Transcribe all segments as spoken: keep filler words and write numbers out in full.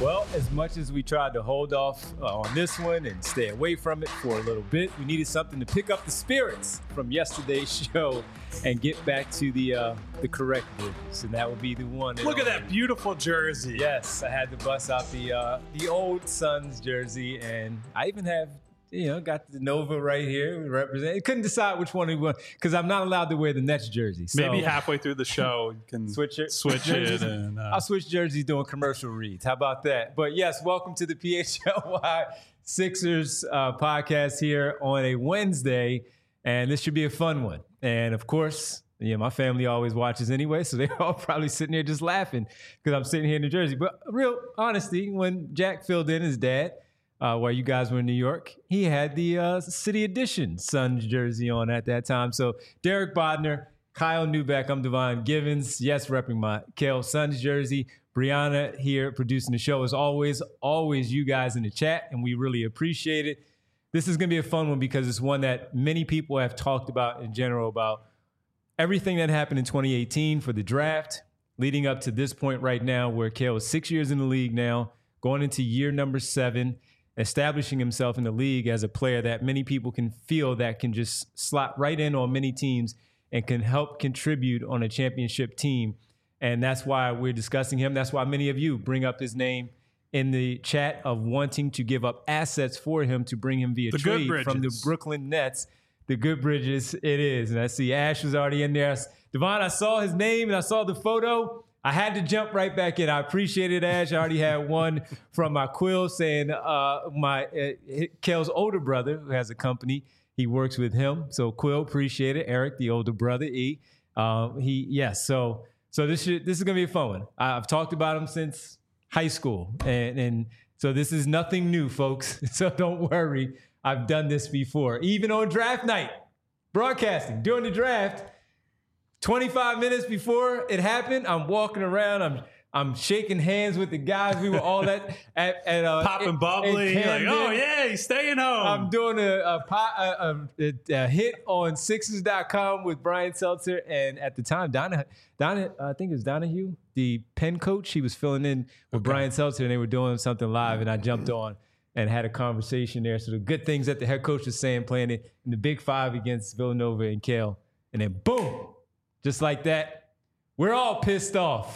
Well, as much as we tried to hold off uh, on this one and stay away from it for a little bit, we needed something to pick up the spirits from yesterday's show and get back to the uh, the correct Bridges, and that would be the one. Look at that beautiful jersey. Yes, I had to bust out the uh, the old Suns jersey, and I even have, you know, got the Nova right here. Represent. Couldn't decide which one we want because I'm not allowed to wear the Nets jersey. So maybe halfway through the show you can switch it. Switch it. And, uh, I'll switch jerseys doing commercial reads. How about that? But yes, welcome to the P H L Y Sixers uh, podcast here on a Wednesday, and this should be a fun one. And of course, yeah, my family always watches anyway, so they're all probably sitting there just laughing because I'm sitting here in New Jersey. But real honesty, when Jack filled in his dad, Uh, while you guys were in New York, he had the uh, City Edition Suns jersey on at that time. So Derek Bodner, Kyle Newbeck, I'm Devon Givens. Yes, repping my Kale Suns jersey. Brianna here producing the show. As always, always you guys in the chat, and we really appreciate it. This is going to be a fun one because it's one that many people have talked about in general about everything that happened in twenty eighteen for the draft, leading up to this point right now where Kale is six years in the league now, going into year number seven, establishing himself in the league as a player that many people can feel that can just slot right in on many teams and can help contribute on a championship team. And that's why we're discussing him. That's why many of you bring up his name in the chat of wanting to give up assets for him to bring him via the trade from the Brooklyn Nets. The good Bridges it is. And I see Ash was already in there. Devon, I saw his name and I saw the photo. I had to jump right back in. I appreciate it, Ash. I already had one from my Quill saying uh, my uh, Kale's older brother, who has a company, he works with him. So Quill, appreciate it. Eric, the older brother, E. Um, he yes. So so this should, this is gonna be a fun one. I've talked about him since high school, and and so this is nothing new, folks. So don't worry. I've done this before, even on draft night, broadcasting during the draft. twenty-five minutes before it happened, I'm walking around. I'm I'm shaking hands with the guys. We were all at at, at uh, popping bubbly. Like, oh yeah, he's staying home. I'm doing a a, a, a, a hit on Sixers dot com with Brian Seltzer, and at the time, Donna Donna I think it was Donahue, the Penn coach. He was filling in with okay. Brian Seltzer, and they were doing something live, and I jumped on and had a conversation there. So the good things that the head coach was saying, playing it in the Big Five against Villanova and Kale, and then boom. Just like that, we're all pissed off.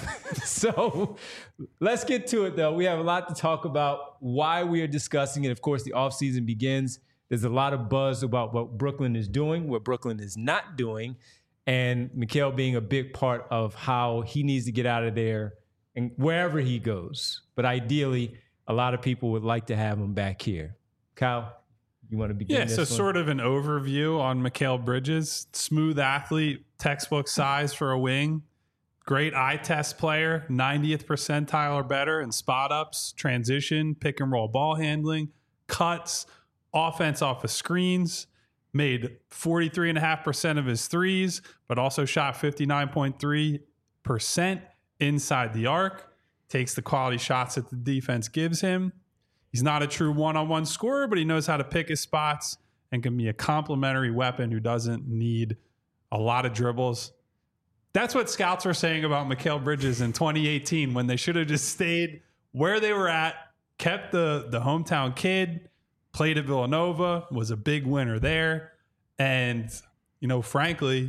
So let's get to it, though. We have a lot to talk about, why we are discussing it. Of course, the offseason begins. There's a lot of buzz about what Brooklyn is doing, what Brooklyn is not doing, and Mikal being a big part of how he needs to get out of there and wherever he goes. But ideally, a lot of people would like to have him back here. Kyle? You want to begin? Yeah, so one? Sort of an overview on Mikal Bridges. Smooth athlete, textbook size for a wing. Great eye test player, ninetieth percentile or better in spot ups, transition, pick and roll ball handling, cuts, offense off of screens. Made forty-three point five percent of his threes, but also shot fifty-nine point three percent inside the arc. Takes the quality shots that the defense gives him. He's not a true one-on-one scorer, but he knows how to pick his spots and can be a complementary weapon who doesn't need a lot of dribbles. That's what scouts were saying about Mikal Bridges in twenty eighteen when they should have just stayed where they were at, kept the, the hometown kid, played at Villanova, was a big winner there. And, you know, frankly,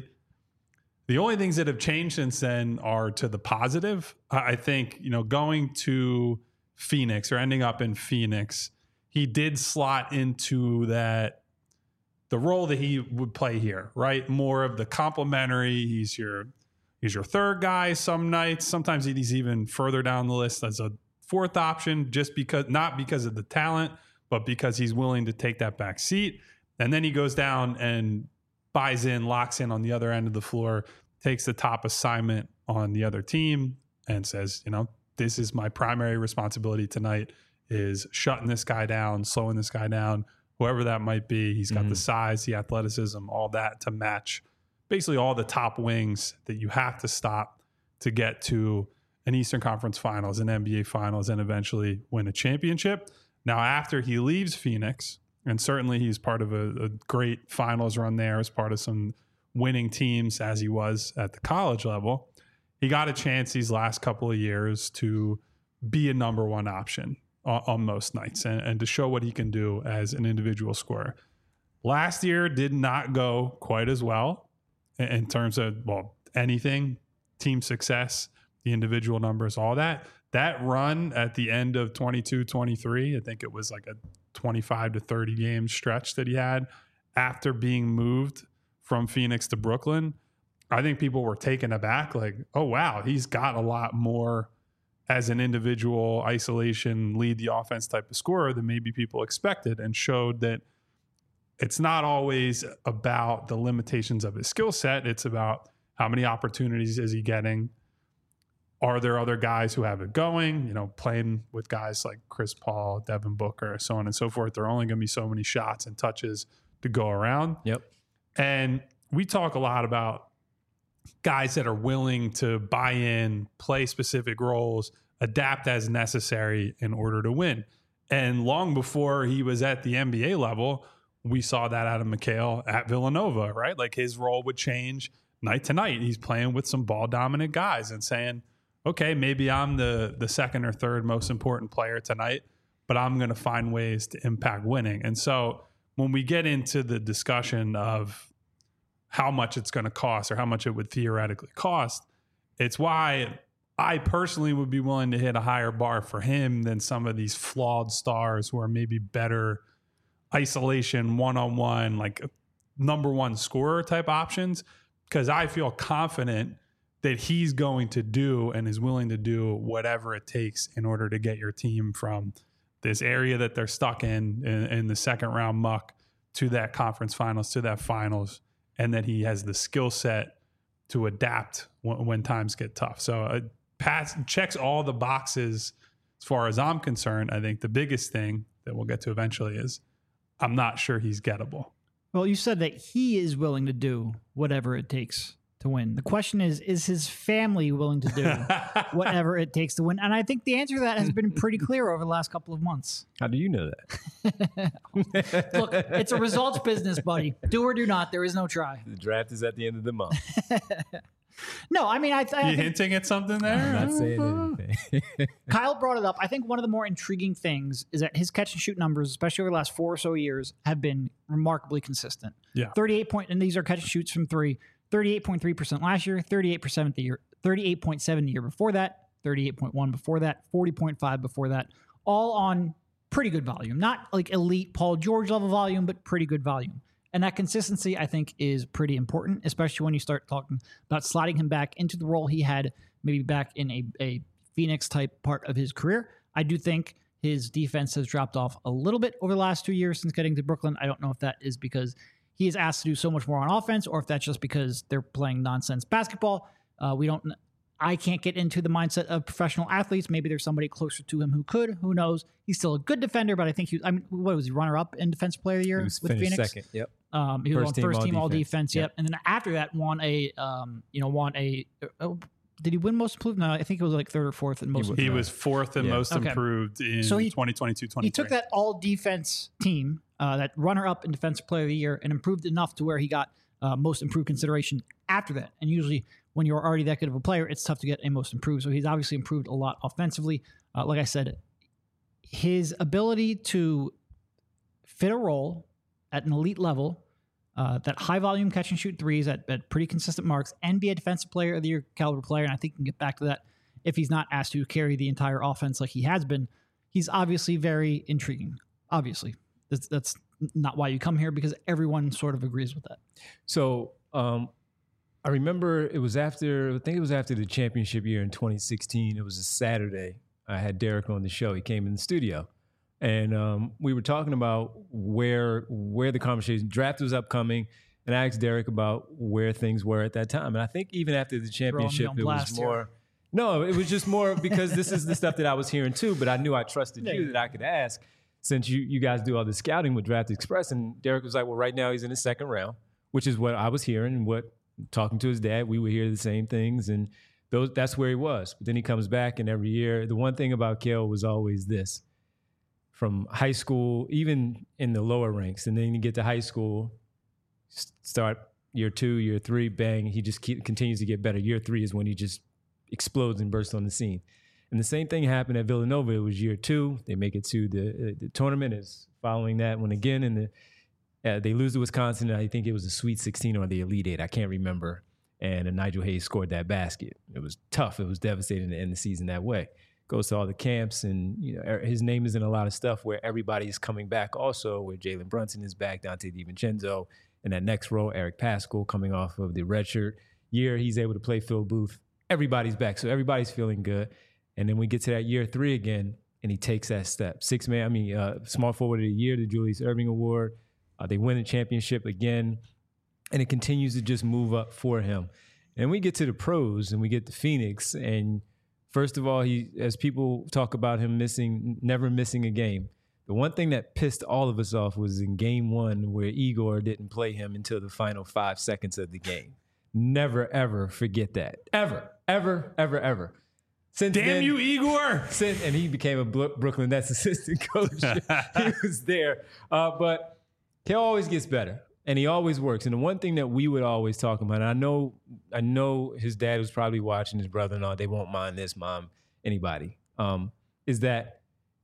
the only things that have changed since then are to the positive. I think, you know, going to Phoenix or ending up in Phoenix, he did slot into that, the role that he would play here, right? More of the complementary. He's your, he's your third guy some nights. Sometimes he's even further down the list as a fourth option, just because, not because of the talent, but because he's willing to take that back seat. And then he goes down and buys in, locks in on the other end of the floor, takes the top assignment on the other team and says, you know, this is my primary responsibility tonight, is shutting this guy down, slowing this guy down, whoever that might be. He's got mm-hmm. the size, the athleticism, all that to match basically all the top wings that you have to stop to get to an Eastern Conference Finals, an N B A Finals, and eventually win a championship. Now, after he leaves Phoenix, and certainly he's part of a, a great finals run there as part of some winning teams as he was at the college level, he got a chance these last couple of years to be a number one option on, on most nights and, and to show what he can do as an individual scorer. Last year did not go quite as well in, in terms of, well, anything, team success, the individual numbers, all that. That run at the end of twenty-two twenty-three, I think it was like a twenty-five to thirty game stretch that he had after being moved from Phoenix to Brooklyn. I think people were taken aback, like, oh, wow, he's got a lot more as an individual isolation, lead the offense type of scorer than maybe people expected, and showed that it's not always about the limitations of his skill set. It's about how many opportunities is he getting? Are there other guys who have it going? You know, playing with guys like Chris Paul, Devin Booker, so on and so forth. There are only going to be so many shots and touches to go around. Yep. And we talk a lot about guys that are willing to buy in, play specific roles, adapt as necessary in order to win. And long before he was at the N B A level, we saw that out of Mikal at Villanova, right? Like his role would change night to night. He's playing with some ball dominant guys and saying, okay, maybe I'm the the second or third most important player tonight, but I'm going to find ways to impact winning. And so when we get into the discussion of how much it's going to cost or how much it would theoretically cost, it's why I personally would be willing to hit a higher bar for him than some of these flawed stars who are maybe better isolation, one-on-one, like number one scorer type options, because I feel confident that he's going to do and is willing to do whatever it takes in order to get your team from this area that they're stuck in, in, in the second round muck to that conference finals, to that finals, and that he has the skill set to adapt when, when times get tough. So uh, pass, checks all the boxes as far as I'm concerned. I think the biggest thing that we'll get to eventually is I'm not sure he's gettable. Well, you said that he is willing to do whatever it takes to win. The question is, is his family willing to do whatever it takes to win? And I think the answer to that has been pretty clear over the last couple of months. How do you know that? Look, it's a results business, buddy. Do or do not. There is no try. The draft is at the end of the month. No, I mean, I, I you think hinting at something there? I'm not saying anything. Kyle brought it up. I think one of the more intriguing things is that his catch and shoot numbers, especially over the last four or so years, have been remarkably consistent. Yeah. thirty-eight point, and these are catch and shoots from three. thirty-eight point three percent last year, thirty-eight percent the year, thirty-eight point seven the year before that, thirty-eight point one before that, forty point five before that, all on pretty good volume. Not like elite Paul George level volume, but pretty good volume. And that consistency, I think, is pretty important, especially when you start talking about sliding him back into the role he had maybe back in a, a Phoenix type part of his career. I do think his defense has dropped off a little bit over the last two years since getting to Brooklyn. I don't know if that is because he is asked to do so much more on offense, or if that's just because they're playing nonsense basketball. Uh, we don't. I can't get into the mindset of professional athletes. Maybe there's somebody closer to him who could. Who knows? He's still a good defender, but I think he. I mean, what was he? Runner up in Defensive Player of the Year He was with finished Phoenix. second. Yep. Um, he was First on team first team all all defense. defense. Yep. Yep. And then after that, won a. Um, you know, won a. Uh, did he win most improved? No, I think it was like third or fourth in most. He, he was fourth and Yeah. most Okay. improved in So he- twenty twenty-two twenty-three. He took that all defense team, uh, that runner up in Defensive Player of the Year, and improved enough to where he got uh, most improved consideration after that. And usually, when you're already that good of a player, it's tough to get a most improved. So he's obviously improved a lot offensively. Uh, like I said, his ability to fit a role at an elite level, uh, that high volume catch and shoot threes at, at pretty consistent marks, and be a Defensive Player of the Year caliber player. And I think he can get back to that if he's not asked to carry the entire offense like he has been. He's obviously very intriguing. Obviously, that's, that's not why you come here, because everyone sort of agrees with that. So um, I remember it was after, I think it was after the championship year in twenty sixteen. It was a Saturday. I had Derek on the show. He came in the studio, and um, we were talking about where where the conversation, draft was upcoming, and I asked Derek about where things were at that time. And I think even after the championship, on it was blast more. here. No, it was just more because this is the stuff that I was hearing too, but I knew I trusted Yeah. you that I could ask, since you you guys do all the scouting with Draft Express. And Derek was like, well, right now he's in the second round, which is what I was hearing, and what, talking to his dad, we would hear the same things, and those that's where he was. But then he comes back, and every year, the one thing about Kale was always this. From high school, even in the lower ranks, and then you get to high school, s- start year two, year three, bang, he just keep, continues to get better. Year three is when he just explodes and bursts on the scene. And the same thing happened at Villanova. It was year two. They make it to the, uh, the tournament. Is following that one again, and the, uh, they lose to Wisconsin. I think it was the Sweet sixteen or the Elite Eight. I can't remember. And uh, Nigel Hayes scored that basket. It was tough. It was devastating to end the season that way. Goes to all the camps, and you know his name is in a lot of stuff where everybody's coming back also, where Jalen Brunson is back, Dante DiVincenzo, and that next row, Eric Paschal, coming off of the redshirt year. He's able to play Phil Booth. Everybody's back, so everybody's feeling good. And then we get to that year three again, and he takes that step. Six man, I mean, uh, small forward of the year, the Julius Erving Award. Uh, they win the championship again, and it continues to just move up for him. And we get to the pros, and we get to Phoenix, and first of all, he, as people talk about him missing, never missing a game, the one thing that pissed all of us off was in game one where Igor didn't play him until the final five seconds of the game. Never, ever forget that. Ever, ever, ever, ever. Since Damn then, you, Igor! Since, and he became a Brooklyn Nets assistant coach. He was there. Uh, but he always gets better. And he always works. And the one thing that we would always talk about, and I know I know his dad was probably watching, his brother-in-law, they won't mind this, mom, anybody, um, is that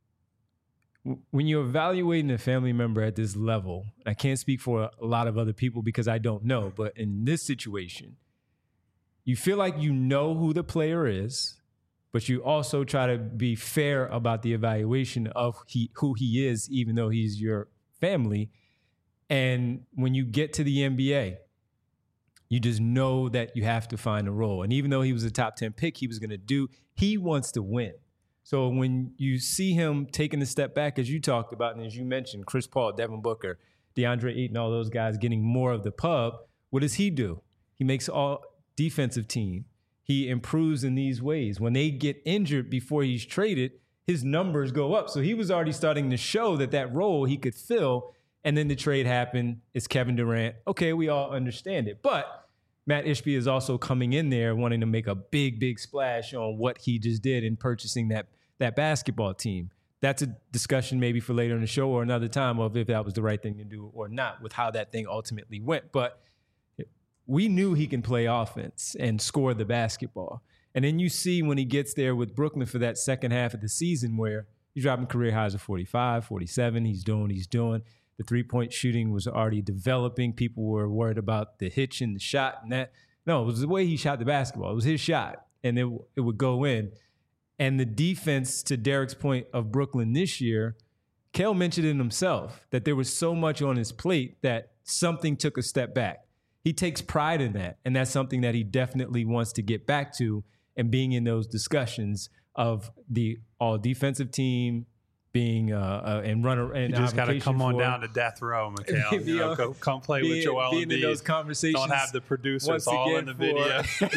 w- when you're evaluating a family member at this level, I can't speak for a lot of other people because I don't know, but in this situation, you feel like you know who the player is, but you also try to be fair about the evaluation of he, who he is, even though he's your family. And when you get to the N B A, you just know that you have to find a role. And even though he was a top ten pick, he was going to do, he wants to win. So when you see him taking a step back, as you talked about, and as you mentioned, Chris Paul, Devin Booker, DeAndre Ayton, all those guys getting more of the pub, what does he do? He makes all defensive team. He improves in these ways. When they get injured before he's traded, his numbers go up. So he was already starting to show that that role he could fill. And then the trade happened. It's Kevin Durant. Okay, we all understand it. But Matt Ishbia is also coming in there wanting to make a big, big splash on what he just did in purchasing that, that basketball team. That's a discussion maybe for later in the show or another time of if that was the right thing to do or not with how that thing ultimately went. But we knew he can play offense and score the basketball. And then you see when he gets there with Brooklyn for that second half of the season where he's dropping career highs of forty-five, forty-seven. He's doing what he's doing. The three-point shooting was already developing. People were worried about the hitch in the shot and that. No, it was the way he shot the basketball. It was his shot, and it, it would go in. And the defense, to Derek's point of Brooklyn this year, Cale mentioned it himself, that there was so much on his plate that something took a step back. He takes pride in that, and that's something that he definitely wants to get back to, and being in those discussions of the all-defensive team, being uh, uh, and run and you just got to come on for, down to death row, Mikhail. You know, go, come play being, with Joel being Embiid. in those conversations. Don't have the producers all in the for, video.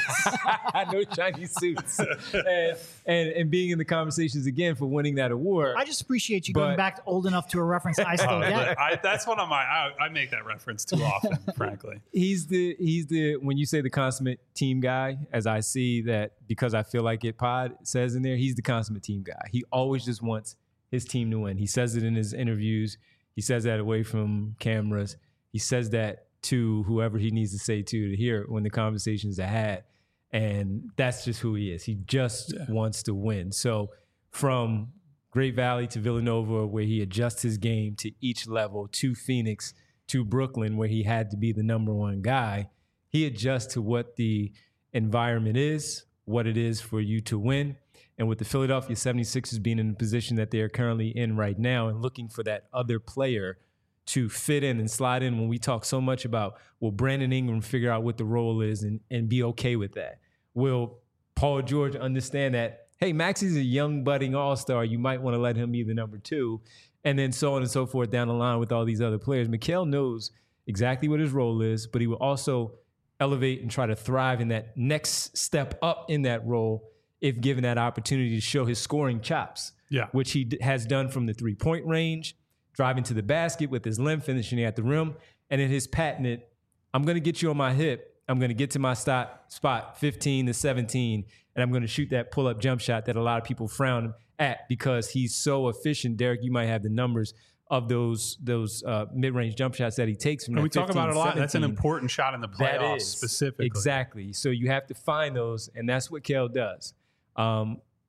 No Chinese suits, and, and and being in the conversations again for winning that award. I just appreciate you but, going back old enough to a reference I still uh, get. I, that's one of my. I, I make that reference too often, frankly. He's the he's the when you say the consummate team guy, as I see that because I feel like it. Pod says in there, he's the consummate team guy. He always just wants his team to win. He says it in his interviews. He says that away from cameras. He says that to whoever he needs to say to to hear when the conversations are had. And that's just who he is. He just yeah. wants to win. So from Great Valley to Villanova, where he adjusts his game to each level, to Phoenix, to Brooklyn, where he had to be the number one guy, he adjusts to what the environment is, what it is for you to win. And with the Philadelphia seventy-sixers being in the position that they're currently in right now and looking for that other player to fit in and slide in, when we talk so much about, will Brandon Ingram figure out what the role is and, and be okay with that? Will Paul George understand that, hey, Maxey's a young budding all-star, you might want to let him be the number two, and then so on and so forth down the line with all these other players. Mikal knows exactly what his role is, but he will also elevate and try to thrive in that next step up in that role if given that opportunity to show his scoring chops, yeah. which he d- has done from the three-point range, driving to the basket with his limb, finishing at the rim, and in his patented, I'm going to get you on my hip, I'm going to get to my stop, spot fifteen to seventeen, and I'm going to shoot that pull-up jump shot that a lot of people frown at because he's so efficient. Derek, you might have the numbers of those those uh, mid-range jump shots that he takes from and that we talk about it a lot. seventeen. That's an important shot in the playoffs specifically. Exactly. So you have to find those, and that's what Cale does. Um,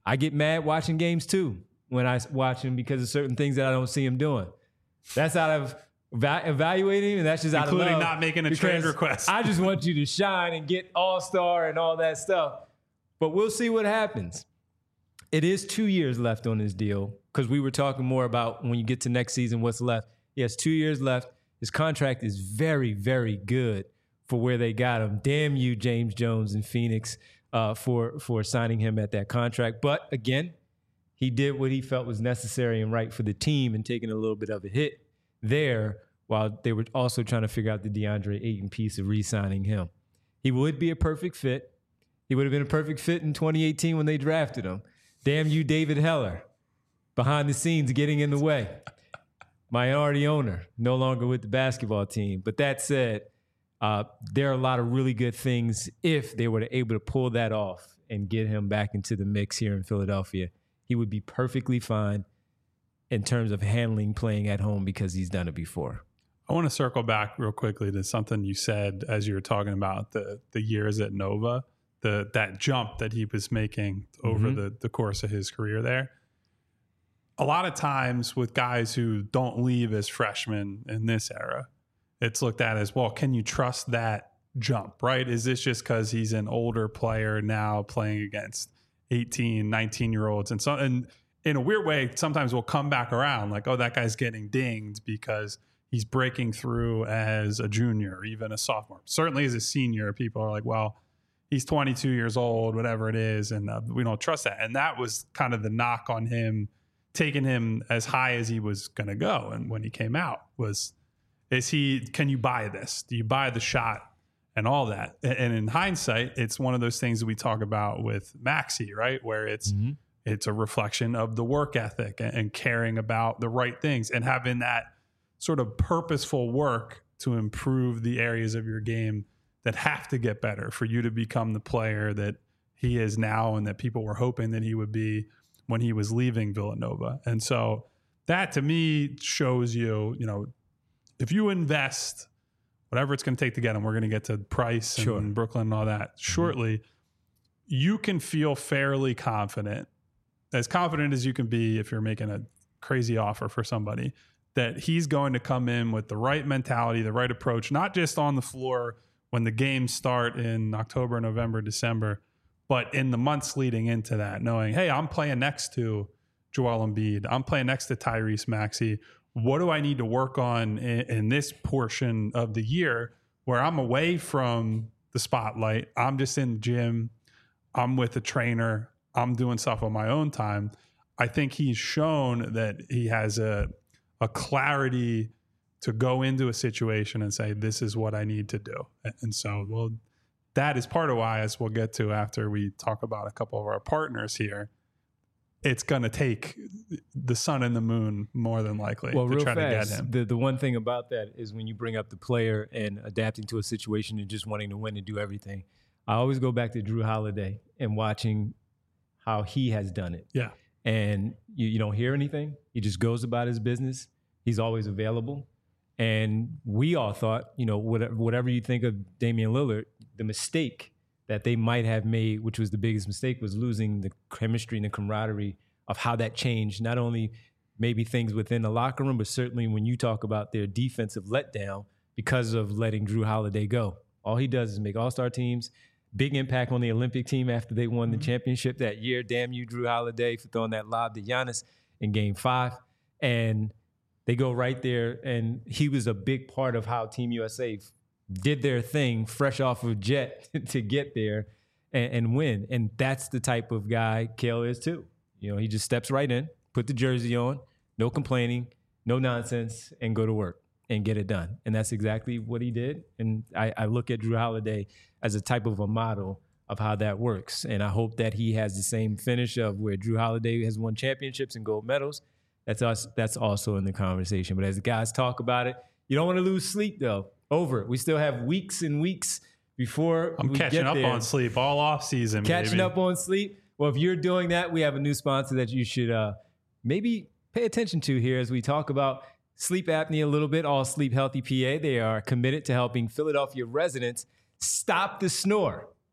I get mad watching games too when I watch him because of certain things that I don't see him doing. That's out of eva- evaluating him, and that's just out Including of love. not making a trade request. I just want you to shine and get all-star and all that stuff. But we'll see what happens. It is two years left on his deal because we were talking more about when you get to next season, what's left. He has two years left. His contract is very, very good for where they got him. Damn you, James Jones in Phoenix, uh, for, for signing him at that contract. But again, he did what he felt was necessary and right for the team and taking a little bit of a hit there while they were also trying to figure out the DeAndre Ayton piece of re-signing him. He would be a perfect fit. He would have been a perfect fit in twenty eighteen when they drafted him. Damn you, David Heller, behind the scenes getting in the way. Minority owner, no longer with the basketball team. But that said, uh, there are a lot of really good things if they were to able to pull that off and get him back into the mix here in Philadelphia. He would be perfectly fine in terms of handling playing at home because he's done it before. I want to circle back real quickly to something you said as you were talking about the the years at Nova, the that jump that he was making over mm-hmm. the, the course of his career there. A lot of times with guys who don't leave as freshmen in this era, it's looked at as, well, can you trust that jump, right? Is this just because he's an older player now playing against eighteen, nineteen-year-olds? And so, and in a weird way, sometimes we'll come back around like, oh, that guy's getting dinged because he's breaking through as a junior or even a sophomore. Certainly as a senior, people are like, well, he's twenty-two years old, whatever it is, and uh, we don't trust that. And that was kind of the knock on him, taking him as high as he was going to go. And when he came out was, is he, can you buy this? Do you buy the shot and all that? And in hindsight, it's one of those things that we talk about with Maxey, right? Where it's, mm-hmm. it's a reflection of the work ethic and, and caring about the right things and having that sort of purposeful work to improve the areas of your game that have to get better for you to become the player that he is now and that people were hoping that he would be when he was leaving Villanova. And so that to me shows you, you know, if you invest whatever it's going to take to get him, we're going to get to Price and sure. Brooklyn and all that shortly, mm-hmm. you can feel fairly confident, as confident as you can be if you're making a crazy offer for somebody, that he's going to come in with the right mentality, the right approach, not just on the floor when the games start in October, November, December, but in the months leading into that, knowing, hey, I'm playing next to Joel Embiid. I'm playing next to Tyrese Maxey. What do I need to work on in, in this portion of the year where I'm away from the spotlight? I'm just in the gym. I'm with a trainer. I'm doing stuff on my own time. I think he's shown that he has a, a clarity to go into a situation and say, this is what I need to do. And so, well, that is part of why, as we'll get to after we talk about a couple of our partners here, it's going to take the sun and the moon more than likely well, to real try fast, to get him. The, the one thing about that is when you bring up the player and adapting to a situation and just wanting to win and do everything, I always go back to Drew Holiday and watching how he has done it. Yeah. And you, you don't hear anything. He just goes about his business. He's always available. And we all thought, you know, whatever, whatever you think of Damian Lillard, the mistake that they might have made, which was the biggest mistake, was losing the chemistry and the camaraderie of how that changed, not only maybe things within the locker room, but certainly when you talk about their defensive letdown because of letting Drew Holiday go. All he does is make all-star teams, big impact on the Olympic team after they won the championship that year. Damn you, Drew Holiday, for throwing that lob to Giannis in game five. And they go right there, and he was a big part of how Team U S A did their thing fresh off of jet to get there and, and win. And that's the type of guy Cale is too. You know, he just steps right in, put the jersey on, no complaining, no nonsense, and go to work and get it done. And that's exactly what he did. And I, I look at Drew Holiday as a type of a model of how that works. And I hope that he has the same finish of where Drew Holiday has won championships and gold medals. That's us. That's also in the conversation. But as the guys talk about it, you don't want to lose sleep, though. Over it. We still have weeks and weeks before I'm we catching get up there. on sleep all off season. Catching baby. up on sleep. Well, if you're doing that, we have a new sponsor that you should uh, maybe pay attention to here as we talk about sleep apnea a little bit. All Sleep Healthy P A. They are committed to helping Philadelphia residents stop the snore.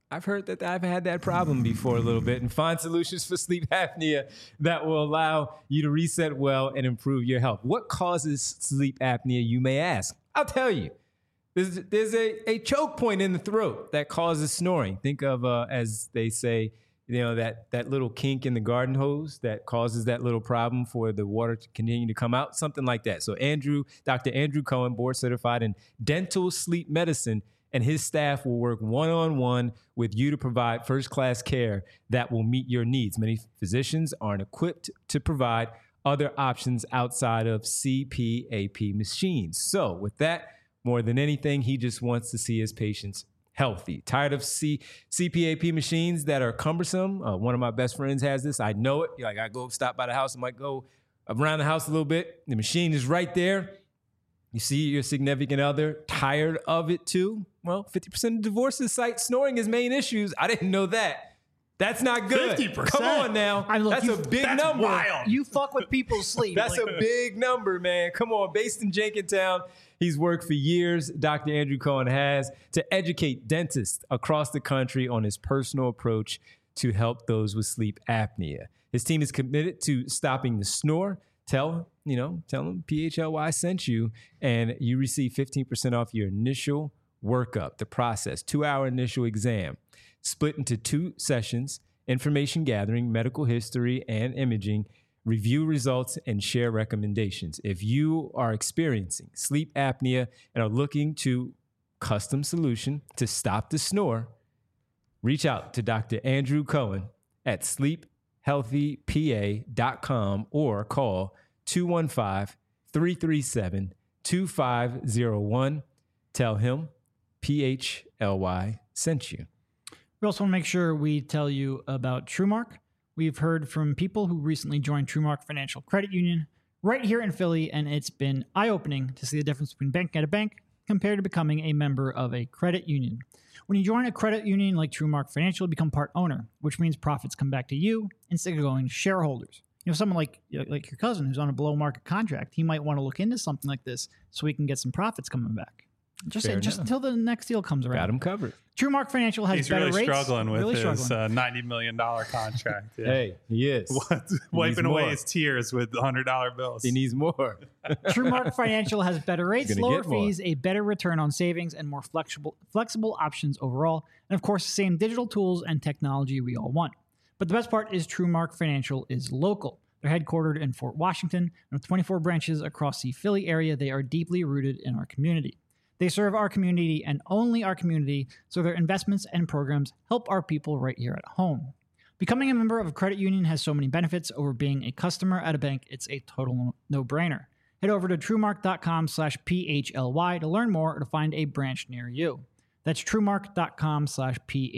I've heard that I've had that problem before a little bit, and find solutions for sleep apnea that will allow you to reset well and improve your health. What causes sleep apnea, you may ask? I'll tell you. There's, there's a, a choke point in the throat that causes snoring. Think of, uh, as they say, you know, that, that little kink in the garden hose that causes that little problem for the water to continue to come out, something like that. So Andrew, Doctor Andrew Cohen, board certified in dental sleep medicine, and his staff will work one-on-one with you to provide first-class care that will meet your needs. Many physicians aren't equipped to provide other options outside of C P A P machines. So with that, more than anything, he just wants to see his patients healthy. Tired of C- CPAP machines that are cumbersome? Uh, one of my best friends has this. I know it. Like, I go stop by the house. I might go around the house a little bit. The machine is right there. You see your significant other tired of it too? Well, fifty percent of divorces cite snoring as main issues. I didn't know that. That's not good. fifty percent? Come on now. I mean, look, that's you- a big That's number. wild. You fuck with people's sleep. That's Like, a big number, man. Come on. Based in Jenkintown, he's worked for years, Doctor Andrew Cohen has, to educate dentists across the country on his personal approach to help those with sleep apnea. His team is committed to stopping the snore. Tell, you know, tell him P H L Y sent you, and you receive fifteen percent off your initial workup, the process, two-hour initial exam, split into two sessions, information gathering, medical history, and imaging, review results, and share recommendations. If you are experiencing sleep apnea and are looking to custom solution to stop the snore, reach out to Doctor Andrew Cohen at sleep healthy p a dot com or call two one five, three three seven, two five zero one. Tell him P H L Y sent you. We also want to make sure we tell you about TrueMark. We've heard from people who recently joined TrueMark Financial Credit Union right here in Philly, and it's been eye-opening to see the difference between banking at a bank compared to becoming a member of a credit union. When you join a credit union like TrueMark Financial, you become part owner, which means profits come back to you instead of going to shareholders. You know, someone like like your cousin who's on a below-market contract, he might want to look into something like this so he can get some profits coming back. Just Fair just enough. until the next deal comes around. Got him covered. TrueMark Financial has He's better really rates. struggling with really his struggling. Uh, ninety million dollars contract. Yeah. Hey, he is. Wiping more. away his tears with one hundred dollar bills. He needs more. TrueMark Financial has better rates, gonna lower get more. fees, a better return on savings, and more flexible flexible options overall. And of course, the same digital tools and technology we all want. But the best part is TrueMark Financial is local. They're headquartered in Fort Washington, and with twenty-four branches across the Philly area, they are deeply rooted in our community. They serve our community and only our community, so their investments and programs help our people right here at home. Becoming a member of a credit union has so many benefits over being a customer at a bank, it's a total no-brainer. Head over to truemark.com slash PHLY to learn more or to find a branch near you. That's truemark.com slash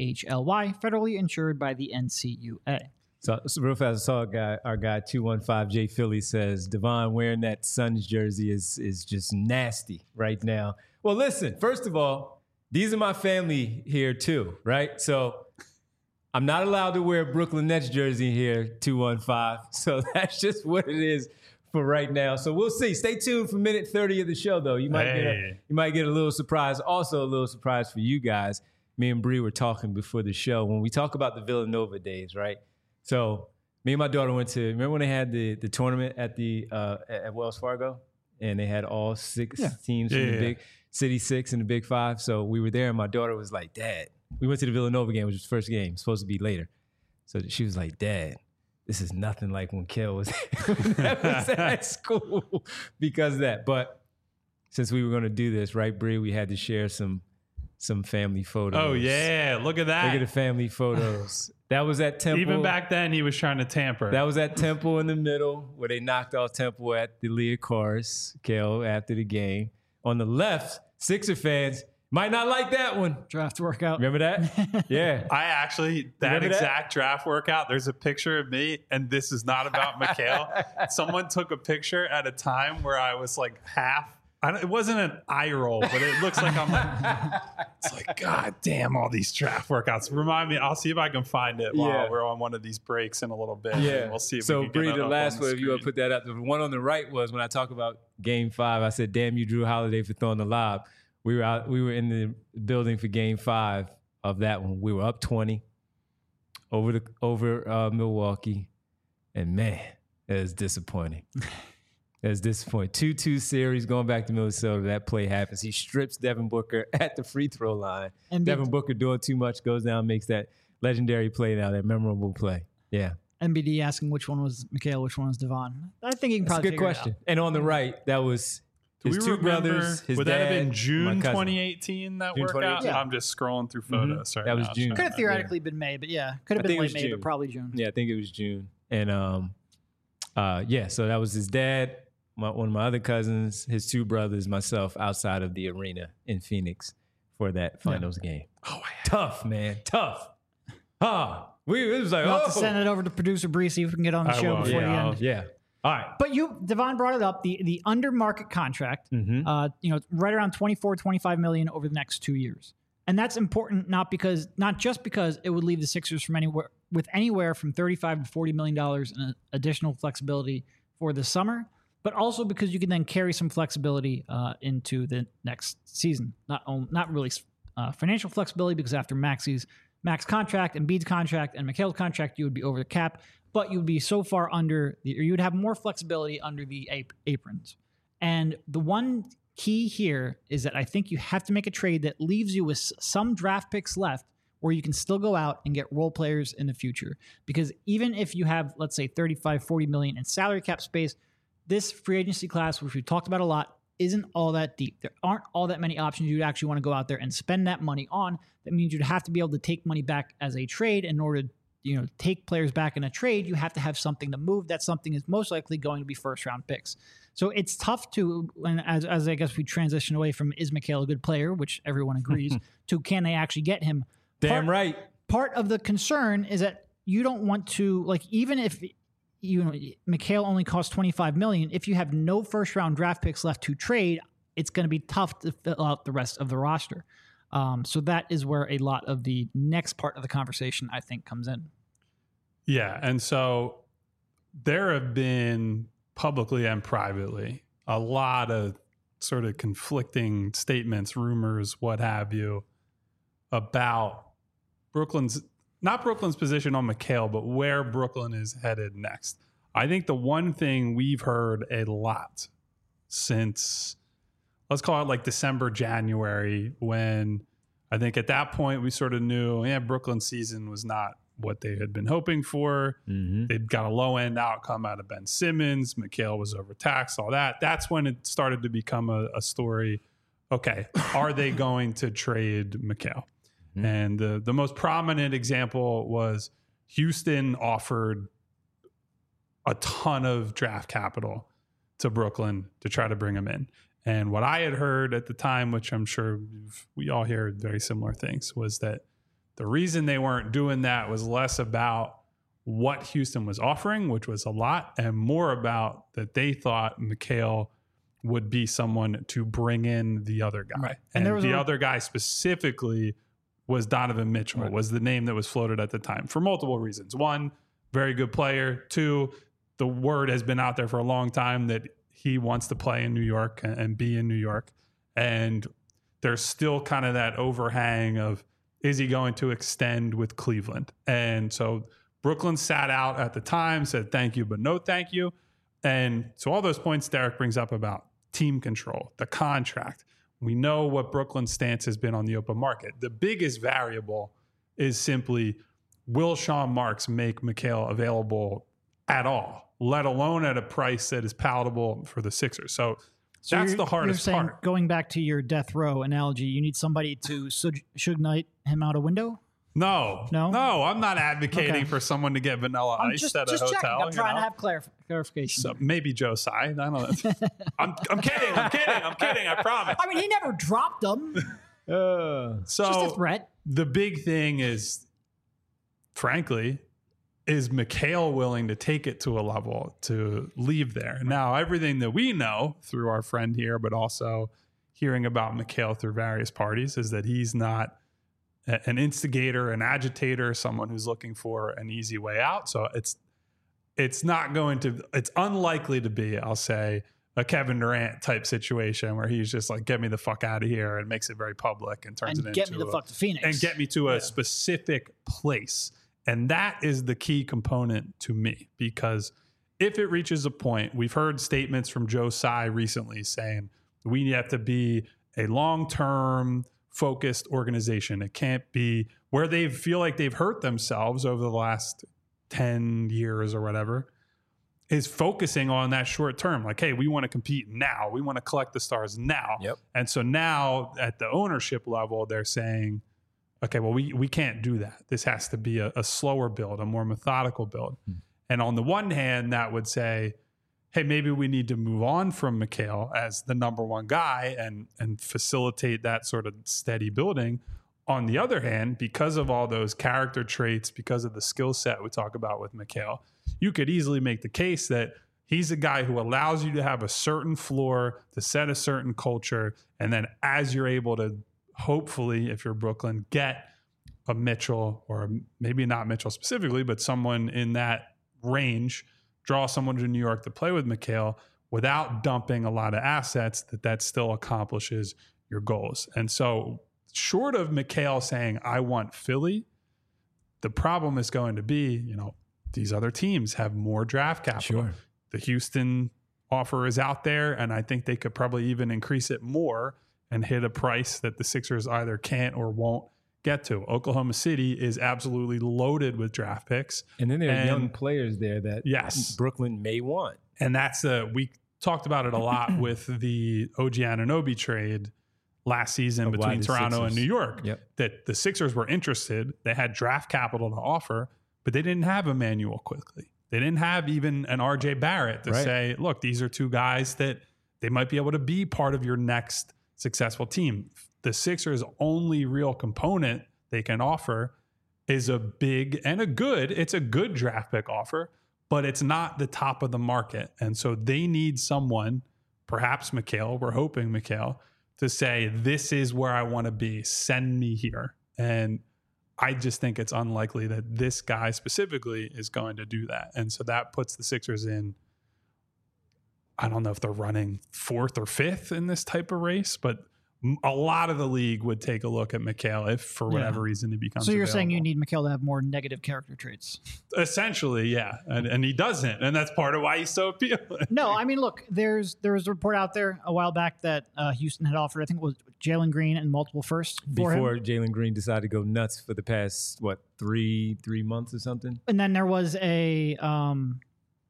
PHLY, federally insured by the N C U A. So, so real fast, I saw a guy, our guy two one five J Philly says, Devon wearing that Suns jersey is is just nasty right now. Well, listen, first of all, these are my family here too, right? So I'm not allowed to wear a Brooklyn Nets jersey here, two one five. So that's just what it is for right now. So we'll see. Stay tuned for minute thirty of the show, though. You might get a, Hey. you might get a little surprise. Also, a little surprise for you guys. Me and Bree were talking before the show when we talk about the Villanova days, right? So me and my daughter went to, remember when they had the, the tournament at the uh, at Wells Fargo, and they had all six Yeah. teams Yeah, from the yeah. big City Six and the Big Five. So we were there, and my daughter was like, "Dad," we went to the Villanova game, which was the first game, supposed to be later. So she was like, "Dad, this is nothing like when Kel was, when I was at school because of that." But since we were going to do this, right, Bree, we had to share some some family photos. Oh, yeah. Look at that. Look at the family photos. That was at Temple. Even back then, he was trying to tamper. That was at Temple in the middle, where they knocked off Temple at the Leah Cars, Kel, after the game. On the left, Sixer fans might not like that one. Draft workout. Remember that? Yeah. I actually, that Remember that? exact draft workout, there's a picture of me, and this is not about Mikhail. Someone took a picture at a time where I was like half. I don't, it wasn't an eye roll, but it looks like I'm like, it's like, God damn, all these draft workouts. Remind me, I'll see if I can find it while Yeah. we're on one of these breaks in a little bit. Yeah. And we'll see if so we can Bree, get it the up last on one, the if you want to screen. put that up, the one on the right was when I talk about Game Five. I said, "Damn you, Drew Holiday, for throwing the lob." We were out. We were in the building for Game Five, of that one. We were up twenty over the over uh, Milwaukee, and man, it was disappointing. It was disappointing. two two series going back to Minnesota. That play happens. He strips Devin Booker at the free throw line. And Devin Booker doing too much, goes down, makes that legendary play now, that memorable play. Yeah. M B D asking which one was Mikhail, which one was Devon. I think you can That's probably a good question. And on the right, that was his two remember, brothers, his would dad, that have been June my twenty eighteen, that June workout? Yeah. I'm just scrolling through photos. Mm-hmm. Right That was now, June. Could have theoretically been May, but yeah, could have I been think it late was May, June. but probably June. Yeah, I think it was June. And um, uh, yeah, so that was his dad, my, one of my other cousins, his two brothers, myself, outside of the arena in Phoenix for that finals yeah. game. Oh, yeah. Tough, man, tough. Ah, we it was like, We'll have oh, to send it over to producer Bree, see if we can get on the I show will. before yeah, the I'll- end. yeah. All right. But you, Devon brought it up, the the under market contract, Mm-hmm. uh, you know, right around twenty-four, twenty-five million over the next two years. And that's important not because not just because it would leave the Sixers from anywhere with anywhere from thirty-five to forty million dollars in additional flexibility for the summer, but also because you can then carry some flexibility uh, into the next season. Not only, not really uh, financial flexibility, because after Maxi's max contract and Embiid's contract and Mikhail's contract, you would be over the cap, but you would be so far under, the, or you would have more flexibility under the ap- aprons. And the one key here is that I think you have to make a trade that leaves you with s- some draft picks left where you can still go out and get role players in the future. Because even if you have, let's say, thirty-five, forty million in salary cap space, this free agency class, which we've talked about a lot, isn't all that deep. There aren't all that many options you'd actually want to go out there and spend that money on. That means you'd have to be able to take money back as a trade. In order to, you know, take players back in a trade, you have to have something to move. That something is most likely going to be first round picks. So it's tough to, and as, as I guess we transition away from is Mikhail a good player, which everyone agrees, to can they actually get him? Damn part, right. Part of the concern is that you don't want to, like, even if you know Mikhail only costs twenty-five million dollars, if you have no first round draft picks left to trade, it's going to be tough to fill out the rest of the roster. Um, so that is where a lot of the next part of the conversation, I think, comes in. Yeah. And so there have been publicly and privately a lot of sort of conflicting statements, rumors, what have you, about Brooklyn's, not Brooklyn's position on Mikhail, but where Brooklyn is headed next. I think the one thing we've heard a lot since, let's call it like December, January, when I think at that point we sort of knew, yeah, Brooklyn's season was not what they had been hoping for. Mm-hmm. They'd got a low end outcome out of Ben Simmons. Mikhail was overtaxed, all that. That's when it started to become a, a story. Okay, are they going to trade Mikhail? Mm-hmm. And the, the most prominent example was Houston offered a ton of draft capital to Brooklyn to try to bring him in. And what I had heard at the time, which I'm sure we all hear very similar things, was that the reason they weren't doing that was less about what Houston was offering, which was a lot, and more about that they thought Mikhail would be someone to bring in the other guy. Right. And, And there was the a- other guy specifically was Donovan Mitchell, Right. was the name that was floated at the time for multiple reasons. One, very good player. Two, the word has been out there for a long time that he wants to play in New York and, and be in New York. And there's still kind of that overhang of, is he going to extend with Cleveland? And so Brooklyn sat out at the time, said thank you, but no thank you. And so all those points Derek brings up about team control, the contract, we know what Brooklyn's stance has been on the open market. The biggest variable is simply, will Sean Marks make Mikhail available at all, let alone at a price that is palatable for the Sixers? So, So that's you're- the hardest you're saying, part. Going back to your death row analogy, you need somebody to Suge Suge Knight him out a window? No, No? no, I'm not advocating Okay. for someone to get vanilla I'm ice just, at a just hotel. checking. I'm you trying know? to have clarif- clarification. So maybe Joe Tsai. I don't know. I'm, I'm kidding. I'm kidding. I'm kidding. I promise. I mean, he never dropped them. Uh, Just a So threat. the big thing is, frankly, is Mikhail willing to take it to a level to leave there? Now, everything that we know through our friend here, but also hearing about Mikhail through various parties, is that he's not a- an instigator, an agitator, someone who's looking for an easy way out. So it's it's not going to, it's unlikely to be, I'll say, a Kevin Durant type situation where he's just like, get me the fuck out of here, and makes it very public and turns And it get into me the a, fuck to Phoenix. and get me to a Yeah. specific place. And that is the key component to me, because if it reaches a point, we've heard statements from Joe Tsai recently saying we have to be a long-term focused organization. It can't be where they feel like they've hurt themselves over the last ten years or whatever, is focusing on that short term. Like, hey, we want to compete now. We want to collect the stars now. Yep. And so now at the ownership level, they're saying, okay, well, we, we can't do that. This has to be a, a slower build, a more methodical build. Hmm. And on the one hand, that would say, hey, maybe we need to move on from Mikal as the number one guy and, and facilitate that sort of steady building. On the other hand, because of all those character traits, because of the skill set we talk about with Mikal, you could easily make the case that he's a guy who allows you to have a certain floor, to set a certain culture, and then as you're able to, hopefully, if you're Brooklyn, get a Mitchell, or maybe not Mitchell specifically, but someone in that range, draw someone to New York to play with Mikal without dumping a lot of assets, that that still accomplishes your goals. And so short of Mikal saying, I want Philly, the problem is going to be, you know, these other teams have more draft capital. Sure. The Houston offer is out there, and I think they could probably even increase it more and hit a price that the Sixers either can't or won't get to. Oklahoma City is absolutely loaded with draft picks. And then there are And- young players there that Yes. Brooklyn may want. And that's a, we talked about it a lot with the O G Anunoby trade last season Of why between the Toronto and Sixers- New York, Yep. that the Sixers were interested. They had draft capital to offer, but they didn't have Emmanuel Quickly. They didn't have even an R J Barrett to Right. say, look, these are two guys that they might be able to be part of your next successful team. The Sixers' only real component they can offer is a big and a good, it's a good draft pick offer, but it's not the top of the market. And so they need someone, perhaps Mikal, we're hoping Mikal, to say, this is where I want to be, send me here. And I just think it's unlikely that this guy specifically is going to do that. And so that puts the Sixers in, I don't know if they're running fourth or fifth in this type of race, but m- a lot of the league would take a look at Mikal if for whatever Yeah. reason he becomes So you're saying you available. need Mikal to have more negative character traits? Essentially, yeah. And, and he doesn't. And that's part of why he's so appealing. No, I mean, look, there's there was a report out there a while back that uh, Houston had offered, I think it was Jalen Green and multiple firsts for Before him. Jalen Green decided to go nuts for the past, what, three three months or something? And then there was a, um,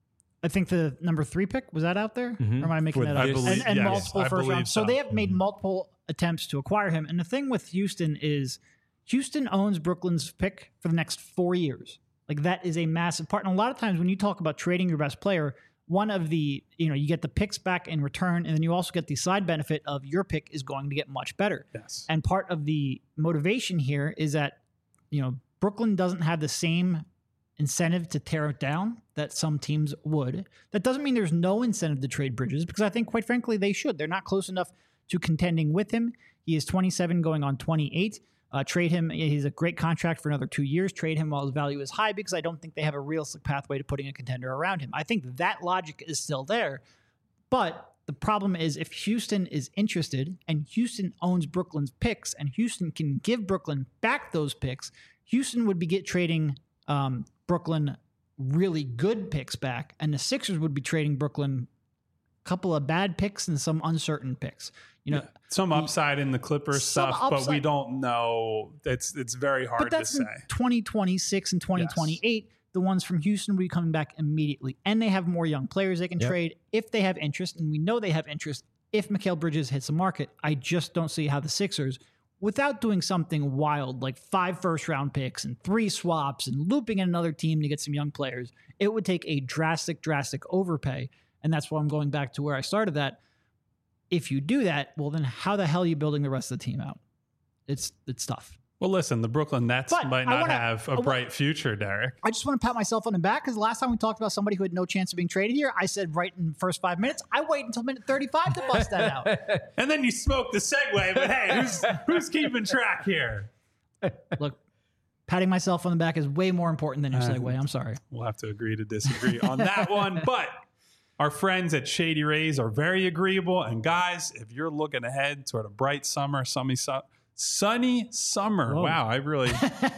I think the number three pick, was that out there? Mhm. Or am I making For that this- up? I believe- and and yes, multiple I first believe rounds. So. so. they have made Mhm. multiple attempts to acquire him. And the thing with Houston is Houston owns Brooklyn's pick for the next four years. Like, that is a massive part. And a lot of times when you talk about trading your best player, one of the, you know, you get the picks back in return, and then you also get the side benefit of your pick is going to get much better. Yes. And part of the motivation here is that, you know, Brooklyn doesn't have the same incentive to tear it down that some teams would. That doesn't mean there's no incentive to trade Bridges, because I think, quite frankly, they should. They're not close enough to contending with him. He is twenty-seven going on twenty-eight. Uh, trade him. He's a great contract for another two years. Trade him while his value is high, because I don't think they have a realistic pathway to putting a contender around him. I think that logic is still there. But the problem is, if Houston is interested and Houston owns Brooklyn's picks and Houston can give Brooklyn back those picks, Houston would be get trading um, Brooklyn really good picks back, and the Sixers would be trading Brooklyn a couple of bad picks and some uncertain picks. You know, Yeah. Some upside in the Clippers Some stuff, but we upside. don't know. It's it's very hard but that's to in say. twenty twenty-six and twenty twenty-eight. The ones from Houston will be coming back immediately, and they have more young players they can Yep. trade if they have interest, and we know they have interest. If Mikal Bridges hits the market, I just don't see how the Sixers, without doing something wild like five first round picks and three swaps and looping in another team to get some young players, it would take a drastic, drastic overpay. And that's why I'm going back to where I started that. If you do that, well, then how the hell are you building the rest of the team out? It's it's tough. Well, listen, the Brooklyn Nets But might I not wanna- have I a wa- bright future, Derek. I just want to pat myself on the back, because last time we talked about somebody who had no chance of being traded here, I said right in the first five minutes. I wait until minute thirty-five to bust that out. And then you smoked the segue, but hey, who's who's keeping track here? Look, patting myself on the back is way more important than your Uh, segue. I'm sorry. We'll have to agree to disagree on that one. But Our friends at Shady Rays are very agreeable. And guys, if you're looking ahead toward a bright summer, sunny, su- sunny summer. Whoa. Wow, I really,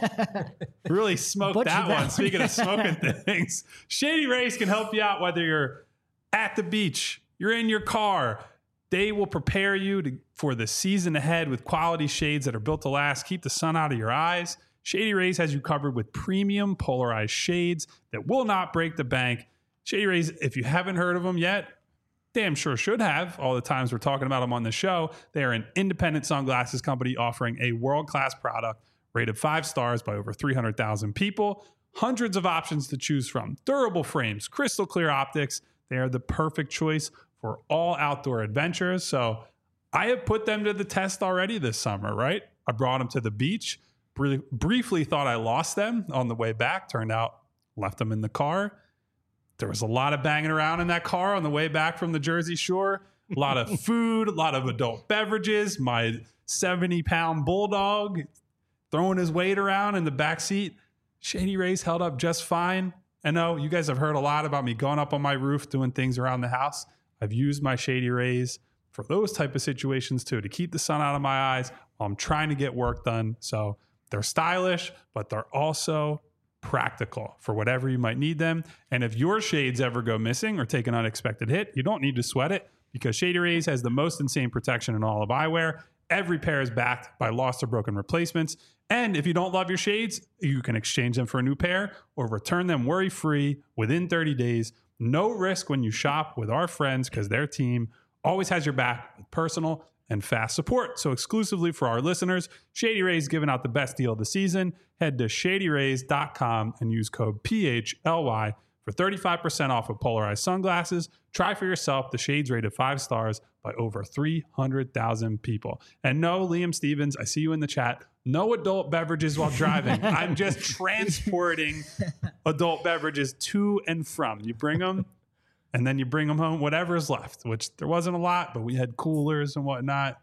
really smoked Butchered that that one. one. Speaking of smoking things, Shady Rays can help you out whether you're at the beach, you're in your car. They will prepare you to, for the season ahead with quality shades that are built to last. Keep the sun out of your eyes. Shady Rays has you covered with premium polarized shades that will not break the bank. Shady Rays, if you haven't heard of them yet, damn sure should have. All the times we're talking about them on the show. They are an independent sunglasses company offering a world-class product rated five stars by over three hundred thousand people. Hundreds of options to choose from. Durable frames, crystal clear optics. They are the perfect choice for all outdoor adventures. So I have put them to the test already this summer, right? I brought them to the beach. Br- briefly thought I lost them on the way back. Turned out left them in the car. There was a lot of banging around in that car on the way back from the Jersey Shore. A lot of food, a lot of adult beverages. My seventy pound bulldog throwing his weight around in the back seat. Shady Rays held up just fine. I know you guys have heard a lot about me going up on my roof, doing things around the house. I've used my Shady Rays for those type of situations too, to keep the sun out of my eyes while I'm trying to get work done. So they're stylish, but they're also practical for whatever you might need them. And if your shades ever go missing or take an unexpected hit, you don't need to sweat it because Shady Rays has the most insane protection in all of eyewear. Every pair is backed by lost or broken replacements. And if you don't love your shades, you can exchange them for a new pair or return them worry-free within thirty days. No risk when you shop with our friends because their team always has your back with personal and fast support. So exclusively for our listeners, Shady Rays giving out the best deal of the season. Head to shady rays dot com and use code P H L Y for thirty-five percent off of polarized sunglasses. Try for yourself the shades rated five stars by over three hundred thousand people. And no, Liam Stevens, I see you in the chat. No adult beverages while driving. I'm just transporting adult beverages to and from. You bring them and then you bring them home, whatever is left, which there wasn't a lot, but we had coolers and whatnot.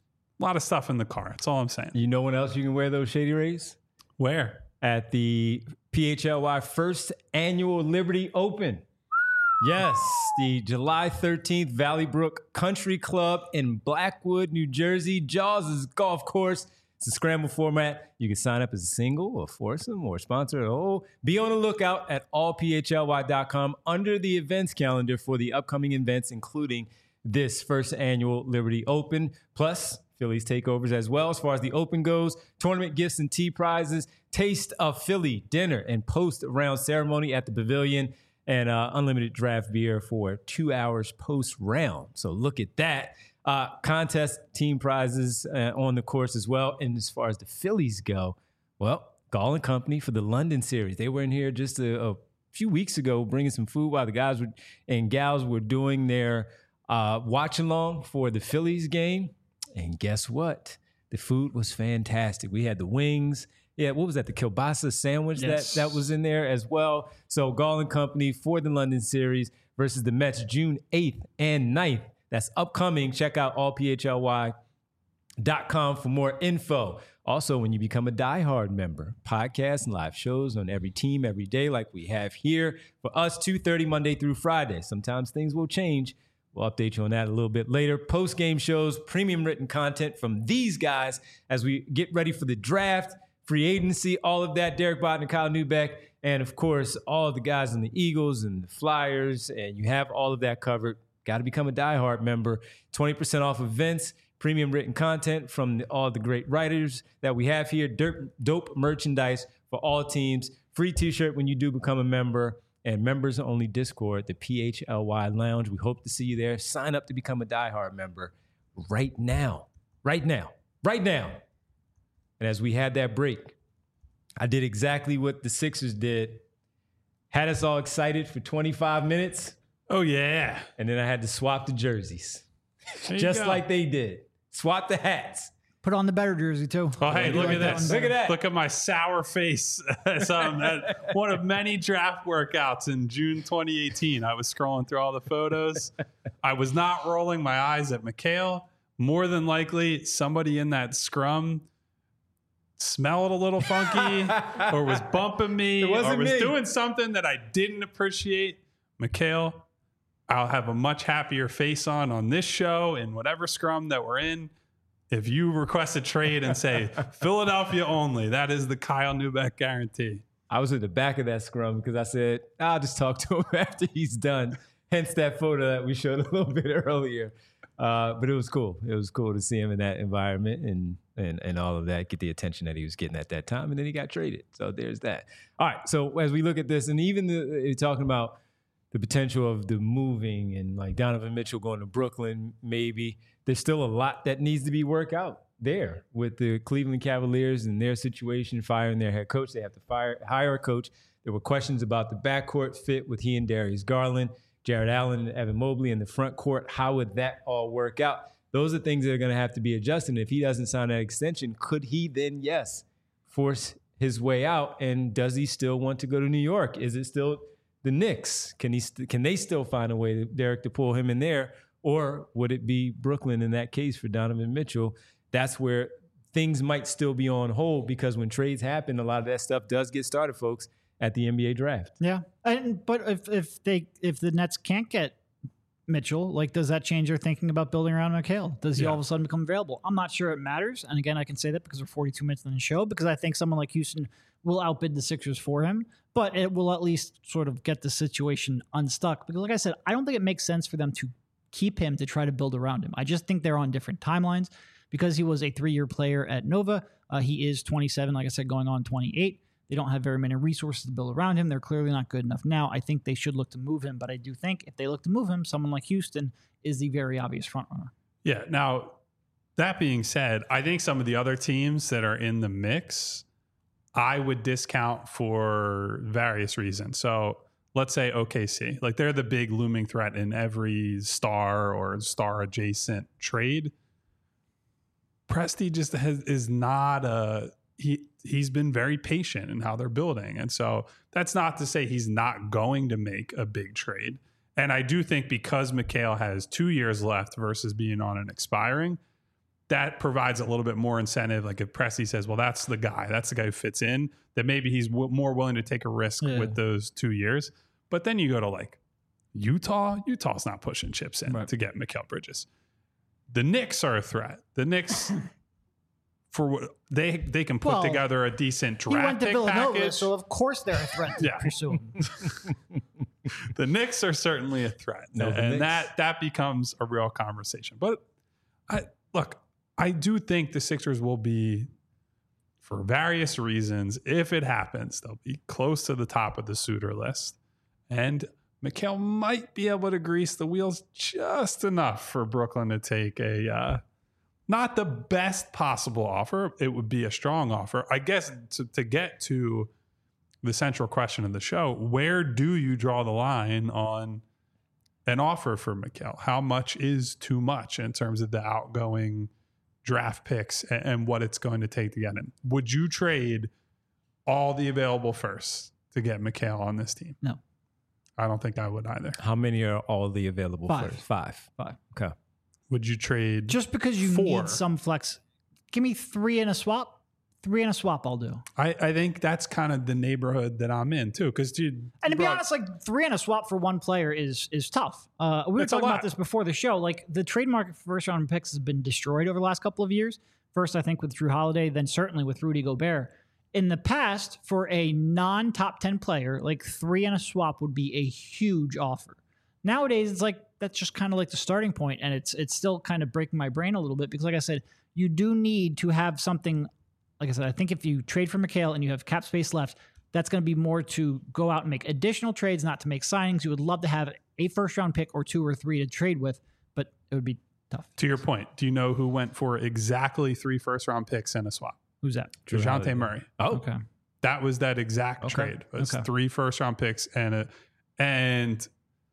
A lot of stuff in the car. That's all I'm saying. You know when else you can wear those Shady Rays? Where? At the P H L Y first annual Liberty Open. Yes, the July thirteenth Valley Brook Country Club in Blackwood, New Jersey. Jaws' golf course. It's a scramble format. You can sign up as a single or foursome or sponsor. Oh, be on the lookout at all p h l y dot com under the events calendar for the upcoming events, including this first annual Liberty Open, plus Phillies takeovers as well. As far as the Open goes, tournament gifts and tee prizes, taste of Philly dinner and post-round ceremony at the Pavilion, and uh, unlimited draft beer for two hours post-round. So look at that. Uh, contest team prizes uh, on the course as well. And as far as the Phillies go, well, Gall and Company for the London series. They were in here just a, a few weeks ago bringing some food while the guys were, and gals were doing their uh, watch along for the Phillies game. And guess what? The food was fantastic. We had the wings. Yeah, what was that? The kielbasa sandwich Yes. that, that was in there as well. So Gall and Company for the London series versus the Mets June eighth and ninth. That's upcoming. Check out all p h l y dot com for more info. Also, when you become a diehard member, podcasts and live shows on every team every day like we have here. For us, two thirty Monday through Friday. Sometimes things will change. We'll update you on that a little bit later. Post-game shows, premium written content from these guys as we get ready for the draft, free agency, all of that. Derek Bott and Kyle Neubeck. And, of course, all of the guys in the Eagles and the Flyers. And you have all of that covered. Got to become a diehard member. twenty percent off events, premium written content from the, all the great writers that we have here. Dope, dope merchandise for all teams. Free t-shirt when you do become a member. And members-only Discord, the P H L Y Lounge. We hope to see you there. Sign up to become a diehard member right now. Right now. Right now. And as we had that break, I did exactly what the Sixers did. Had us all excited for twenty-five minutes. Oh, yeah. And then I had to swap the jerseys. There you Just go. like they did. Swap the hats. Put on the better jersey, too. Oh, hey, I do look like at that this. one Look at better. that. Look at my sour face. So, um, at one of many draft workouts in June twenty eighteen. I was scrolling through all the photos. I was not rolling my eyes at Mikhail. More than likely, somebody in that scrum smelled a little funky or was bumping me It wasn't or was me. doing something that I didn't appreciate. Mikhail, I'll have a much happier face on on this show in whatever scrum that we're in. If you request a trade and say Philadelphia only, that is the Kyle Neubeck guarantee. I was at the back of that scrum because I said, I'll just talk to him after he's done. Hence that photo that we showed a little bit earlier. Uh, but it was cool. It was cool to see him in that environment and, and and all of that, get the attention that he was getting at that time. And then he got traded. So there's that. All right. So as we look at this, and even the, talking about the potential of the moving and like Donovan Mitchell going to Brooklyn, maybe, there's still a lot that needs to be worked out there with the Cleveland Cavaliers and their situation, firing their head coach. They have to fire hire a coach. There were questions about the backcourt fit with he and Darius Garland, Jared Allen and Evan Mobley in the front court. How would that all work out? Those are things that are going to have to be adjusted. If he doesn't sign that extension, could he then, yes, force his way out? And does he still want to go to New York? Is it still the Knicks? Can he? St- can they still find a way, to, Derek, to pull him in there? Or would it be Brooklyn in that case for Donovan Mitchell? That's where things might still be on hold, because when trades happen, a lot of that stuff does get started, folks, at the N B A draft. Yeah. And but if if they if the Nets can't get Mitchell, like, does that change their thinking about building around Mikal? Does he Yeah. all of a sudden become available? I'm not sure it matters. And again, I can say that because we're forty-two minutes in the show, because I think someone like Houston will outbid the Sixers for him, but it will at least sort of get the situation unstuck. Because like I said, I don't think it makes sense for them to keep him to try to build around him. I just think they're on different timelines. Because he was a three-year player at Nova, uh, he is twenty-seven, like I said, going on twenty-eight. They don't have very many resources to build around him. They're clearly not good enough now. I think they should look to move him, but I do think if they look to move him, someone like Houston is the very obvious frontrunner. Yeah. Now, that being said, I think some of the other teams that are in the mix, I would discount for various reasons. So let's say O K C, like they're the big looming threat in every star or star adjacent trade. Presti just has, is not a he. He's been very patient in how they're building, and so that's not to say he's not going to make a big trade. And I do think because Mikal has two years left versus being on an expiring, that provides a little bit more incentive. Like if Presti says, "Well, that's the guy. That's the guy who fits in," that maybe he's w- more willing to take a risk Yeah. with those two years. But then you go to like Utah. Utah's not pushing chips in Right. to get Mikal Bridges. The Knicks are a threat. The Knicks, for what they they can put Well, together a decent He draft went to pick Villanova, package. so of course they're a threat to Yeah. pursue him. The Knicks are certainly a threat, No, the and Knicks- that that becomes a real conversation. But I look, I do think the Sixers will be, for various reasons, if it happens, they'll be close to the top of the suitor list, and Mikal might be able to grease the wheels just enough for Brooklyn to take a uh, not the best possible offer. It would be a strong offer, I guess. To, to get to the central question of the show, where do you draw the line on an offer for Mikal? How much is too much in terms of the outgoing draft picks and, and what it's going to take to get him? Would you trade all the available firsts to get Mikal on this team? No. I don't think I would either. How many are all the available Five. first? Five. Five. Okay. Would you trade? Just because you Four. need some flex. Give me three in a swap. Three in a swap, I'll do. I, I think that's kind of the neighborhood that I'm in too. Because dude, And to be bro, honest, like three in a swap for one player is is tough. Uh, we were It's a talking about lot. this before the show. Like the trade market for first round picks has been destroyed over the last couple of years. First, I think with Drew Holiday, then certainly with Rudy Gobert. In the past, for a non-top ten player, like three in a swap would be a huge offer. Nowadays, it's like that's just kind of like the starting point, and it's it's still kind of breaking my brain a little bit because, like I said, you do need to have something. Like I said, I think if you trade for Mikal and you have cap space left, that's going to be more to go out and make additional trades, not to make signings. You would love to have a first round pick or two or three to trade with, but it would be tough. to your point, do you know who went for exactly three first round picks and a swap? Who's that? Drew Holiday. DeJounte Murray. Oh, Okay. That was that exact Okay. trade. It was Okay. three first round picks and a and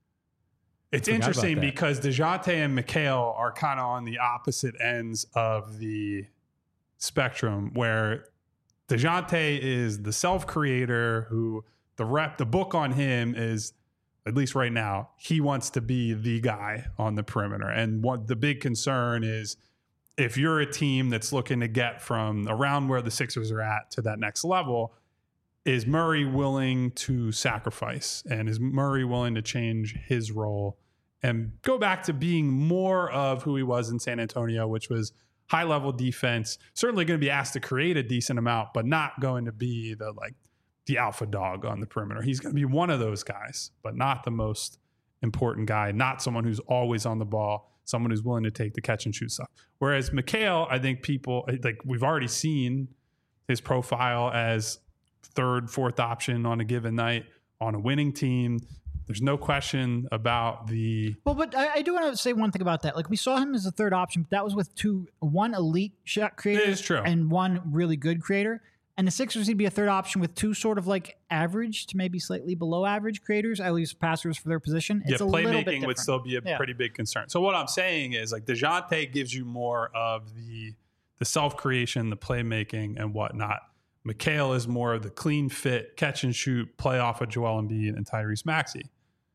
it's Forgot about interesting that. because DeJounte and Mikal are kind of on the opposite ends of the spectrum, where DeJounte is the self-creator who the rep, the book on him is, at least right now, he wants to be the guy on the perimeter. And what the big concern is, if you're a team that's looking to get from around where the Sixers are at to that next level, is Murray willing to sacrifice? And is Murray willing to change his role and go back to being more of who he was in San Antonio, which was high level defense, certainly going to be asked to create a decent amount, but not going to be the like the alpha dog on the perimeter. He's going to be one of those guys, but not the most important guy, not someone who's always on the ball, someone who's willing to take the catch and shoot stuff. Whereas Mikal, I think people like we've already seen his profile as third, fourth option on a given night on a winning team. There's no question about the. Well, but I, I do want to say one thing about that. Like we saw him as a third option, but that was with two, one elite shot creator It is true. and one really good creator. And the Sixers would be a third option with two sort of like average to maybe slightly below average creators, at least passers for their position. It's yeah, a little bit playmaking would different. still be a Yeah. pretty big concern. So what I'm saying is like DeJounte gives you more of the the self creation, the playmaking, and whatnot. Mikal is more of the clean fit, catch and shoot, play off of Joel Embiid and Tyrese Maxey.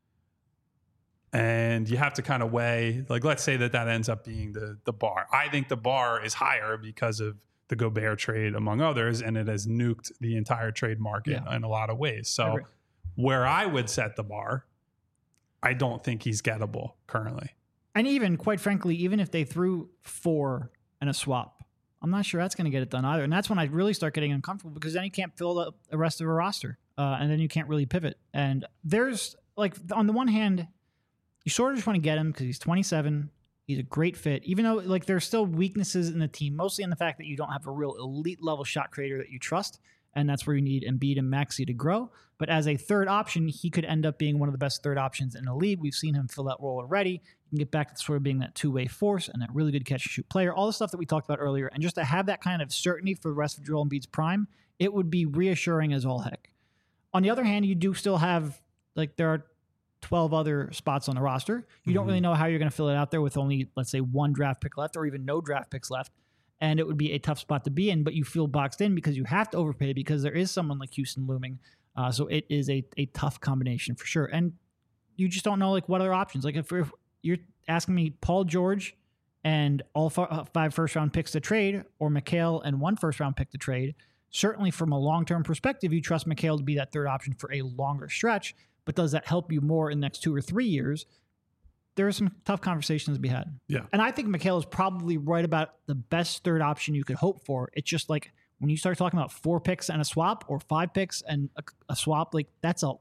And you have to kind of weigh, like, let's say that that ends up being the the bar. I think the bar is higher because of the Gobert trade, among others, and it has nuked the entire trade market Yeah. in a lot of ways. I So agree. where I would set the bar, I don't think he's gettable currently. And even, quite frankly, even if they threw four and a swap, I'm not sure that's going to get it done either. And that's when I really start getting uncomfortable because then you can't fill up the rest of a roster. Uh, and then you can't really pivot. And there's, like, on the one hand, you sort of just want to get him because he's twenty-seven. He's a great fit, even though, like, there's still weaknesses in the team, mostly in the fact that you don't have a real elite level shot creator that you trust. And that's where you need Embiid and Maxey to grow. But as a third option, he could end up being one of the best third options in the league. We've seen him fill that role already. You can get back to sort of being that two-way force and that really good catch and shoot player, all the stuff that we talked about earlier. And just to have that kind of certainty for the rest of Joel Embiid's prime, it would be reassuring as all heck. On the other hand, you do still have, like, there are twelve other spots on the roster. You don't Mhm. really know how you're going to fill it out there with only, let's say, one draft pick left or even no draft picks left. And it would be a tough spot to be in, but you feel boxed in because you have to overpay because there is someone like Houston looming. Uh, so it is a, a tough combination for sure. And you just don't know, like, what other options. Like, if, if you're asking me Paul George and all f- five first-round picks to trade, or Mikal and one first-round pick to trade, certainly from a long-term perspective, you trust Mikal to be that third option for a longer stretch. But does that help you more in the next two or three years? There are some tough conversations to be had. Yeah. And I think Mikal is probably right about the best third option you could hope for. It's just like when you start talking about four picks and a swap or five picks and a, a swap, like that's a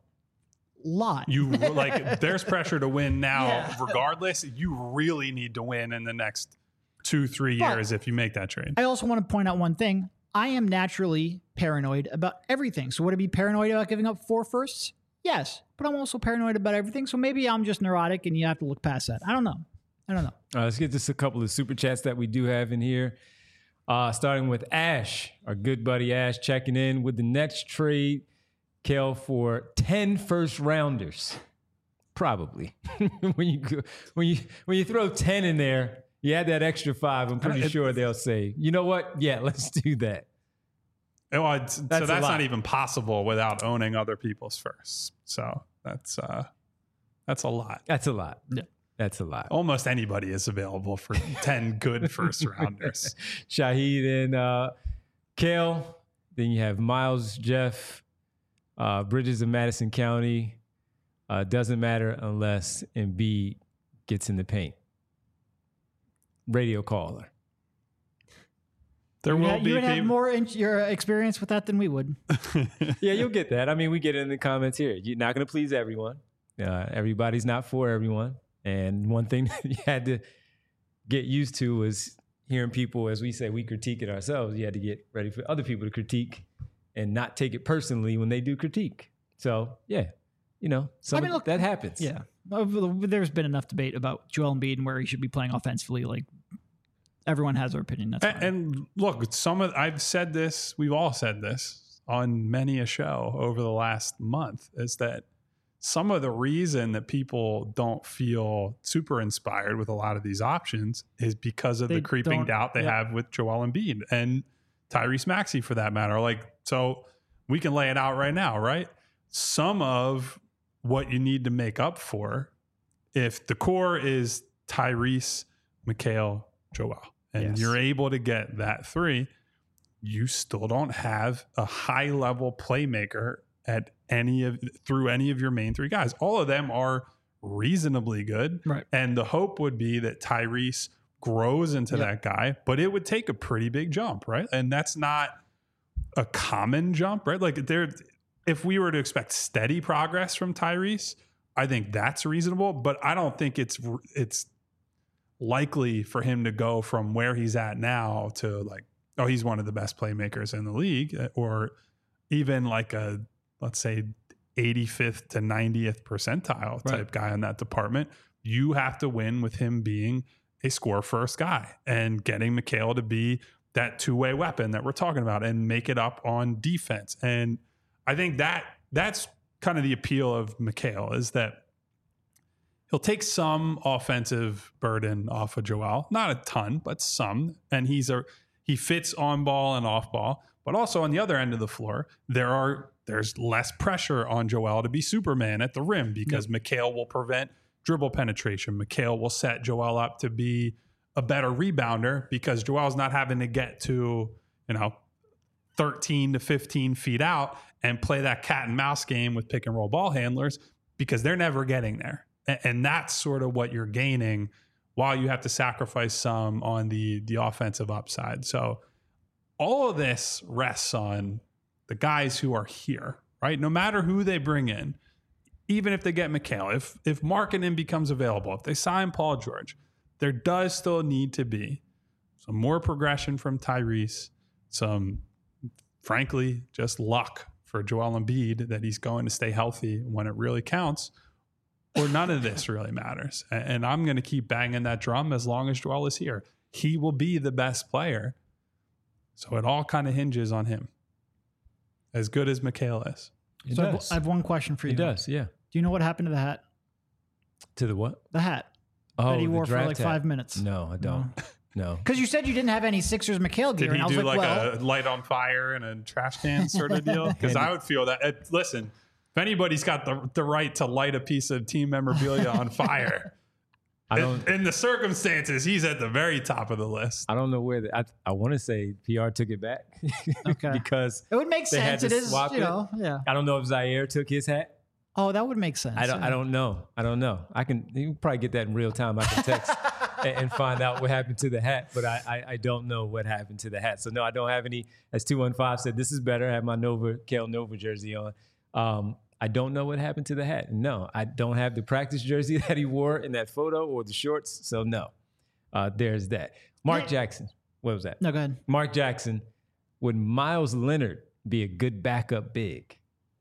lot. You like there's pressure to win now Yeah. regardless. You really need to win in the next two, three But- years if you make that trade. I also want to point out one thing. I am naturally paranoid about everything. So would I be paranoid about giving up four firsts? Yes, but I'm also paranoid about everything. So maybe I'm just neurotic and you have to look past that. I don't know. I don't know. All right, let's get just a couple of super chats that we do have in here. Uh, starting with Ash, our good buddy Ash, checking in with the next trade, Kel, for ten first rounders. Probably. when you go, when you when you throw ten in there, you add that extra five. I'm pretty It- sure they'll say, you know what? Yeah, let's do that. Oh, it's- That's so a that's lot. not even possible without owning other people's first. So that's uh, that's a lot. That's a lot. Yeah. That's a lot. Almost anybody is available for ten good first rounders. Shaheed and uh, Kale. Then you have Miles, Jeff, uh, Bridges of Madison County. Uh, doesn't matter unless Embiid gets in the paint. Radio caller. There You, will ha- be you would have people- more in- your experience with that than we would. Yeah, you'll get that. I mean, we get it in the comments here. You're not going to please everyone. Uh, everybody's not for everyone. And one thing that you had to get used to was hearing people, as we say, we critique it ourselves. You had to get ready for other people to critique and not take it personally when they do critique. So, yeah, you know, some I mean, of- look, that happens. Yeah. Well, there's been enough debate about Joel Embiid and where he should be playing offensively. Like, everyone has their opinion. That's And, fine. and look, some of I've said this, we've all said this on many a show over the last month, is that some of the reason that people don't feel super inspired with a lot of these options is because of They the creeping don't- doubt they yeah. have with Joel Embiid and Tyrese Maxey for that matter. Like, so we can lay it out right now, right? Some of what you need to make up for, if the core is Tyrese, Mikal, Joel, and Yes. you're able to get that three, you still don't have a high level playmaker at any of through any of your main three guys. All of them are reasonably good. Right. And the hope would be that Tyrese grows into Yep. that guy, but it would take a pretty big jump, right? And that's not a common jump, right? Like there, if we were to expect steady progress from Tyrese, I think that's reasonable, but I don't think it's it's likely for him to go from where he's at now to like, oh, he's one of the best playmakers in the league, or even like a, let's say, eighty-fifth to ninetieth percentile type Right. guy in that department. You have to win with him being a score first guy and getting Mikal to be that two-way weapon that we're talking about and make it up on defense. And I think that that's kind of the appeal of Mikal, is that he'll take some offensive burden off of Joel, not a ton, but some. And he's a he fits on ball and off ball, but also on the other end of the floor, there are there's less pressure on Joel to be Superman at the rim because yep. Mikal will prevent dribble penetration. Mikal will set Joel up to be a better rebounder because Joel's not having to get to, you know, thirteen to fifteen feet out and play that cat and mouse game with pick and roll ball handlers because they're never getting there. And that's sort of what you're gaining while you have to sacrifice some on the, the offensive upside. So all of this rests on the guys who are here, right? No matter who they bring in, even if they get Mikal, if if Markkanen becomes available, if they sign Paul George, there does still need to be some more progression from Tyrese, some, frankly, just luck for Joel Embiid that he's going to stay healthy when it really counts, or none of this really matters. And, and I'm going to keep banging that drum as long as Joel is here. He will be the best player. So it all kind of hinges on him, as good as Mikal is. It so does. I have one question for you. It does, yeah. Do you know what happened to the hat? To the what? The hat Oh, that he the wore for draft like hat. five minutes. No, I don't. No. Because you said you didn't have any Sixers Mikal gear. Did he and I was do like, like, well, a light on fire and a trash can sort of deal? Because I would feel that. It, listen, if anybody's got the, the right to light a piece of team memorabilia on fire, I don't. in, in the circumstances, he's at the very top of the list. I don't know where. The, I I want to say P R took it back Okay. because it would make they had sense. to It is, swap you it. know, yeah. I don't know if Zaire took his hat. Oh, that would make sense. I don't. yeah. I don't know. I don't know. I can. You can probably get that in real time. I can text and, and find out what happened to the hat. But I, I I don't know what happened to the hat. So no, I don't have any. As two one five said, this is better. I have my Nova Kel Nova jersey on. Um, I don't know what happened to the hat. No, I don't have the practice jersey that he wore in that photo or the shorts. So no, uh, there's that. Mark Yeah. Jackson. What was that? No, go ahead. Mark Jackson. Would Miles Leonard be a good backup big?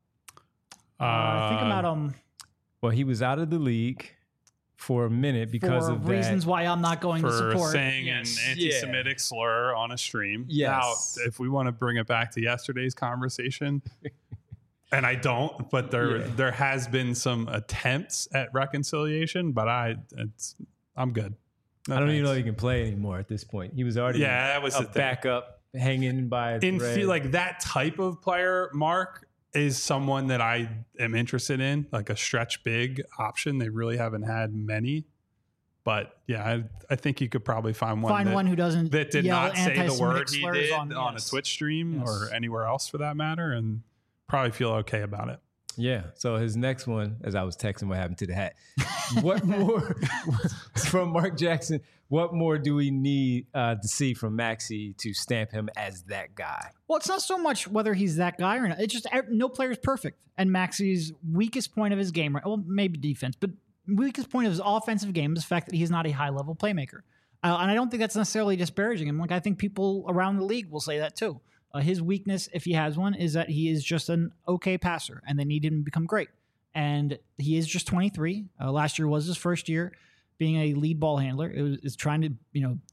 Uh, I think I'm out on Well, he was out of the league for a minute because for of reasons that. why I'm not going For to support. saying Yes. an anti-Semitic slur on a stream. Yes. Now, if we want to bring it back to yesterday's conversation, and I don't, but there Yeah. there has been some attempts at reconciliation, but I it's I'm good. No I don't even thanks. know if he can play anymore at this point. He was already Yeah, that was a the thing. backup hanging by a In thread. feel like that type of player, Mark, is someone that I am interested in, like a stretch big option. They really haven't had many, but yeah, I, I think you could probably find one Find that, one who doesn't that did yell not say the anti-Semitic word he slurs did on, on, yes. a Twitch stream Yes. or anywhere else for that matter, and probably feel okay about it. Yeah. So his next one, as I was texting what happened to the hat. What more from Mark Jackson? What more do we need uh, to see from Maxey to stamp him as that guy? Well, it's not so much whether he's that guy or not. It's just er, no player is perfect. And Maxey's weakest point of his game, right? Well, maybe defense, but weakest point of his offensive game is the fact that he's not a high level playmaker. Uh, and I don't think that's necessarily disparaging him. Like, I think people around the league will say that too. Uh, his weakness, if he has one, is that he is just an okay passer and they need him to become great. And he is just twenty-three. Uh, last year was his first year being a lead ball handler. It was is trying to, you know,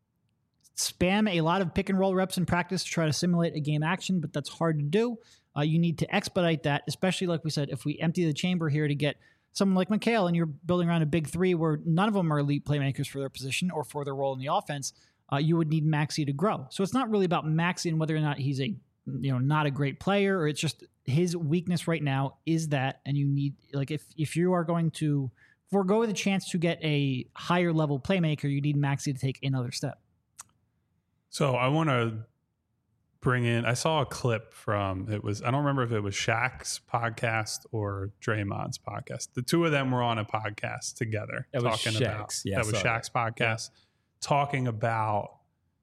spam a lot of pick and roll reps in practice to try to simulate a game action, but that's hard to do. Uh, you need to expedite that, especially like we said, if we empty the chamber here to get someone like Mikal and you're building around a big three where none of them are elite playmakers for their position or for their role in the offense, uh, you would need Maxey to grow. So it's not really about Maxey and whether or not he's a, you know, not a great player, or it's just his weakness right now is that, and you need, like, if, if you are going to forego the chance to get a higher level playmaker, you need Maxey to take another step. So I want to bring in, I saw a clip from, it was, I don't remember if it was Shaq's podcast or Draymond's podcast. The two of them were on a podcast together That was talking about, Shaq's. Yeah, that I was saw Shaq's podcast, talking about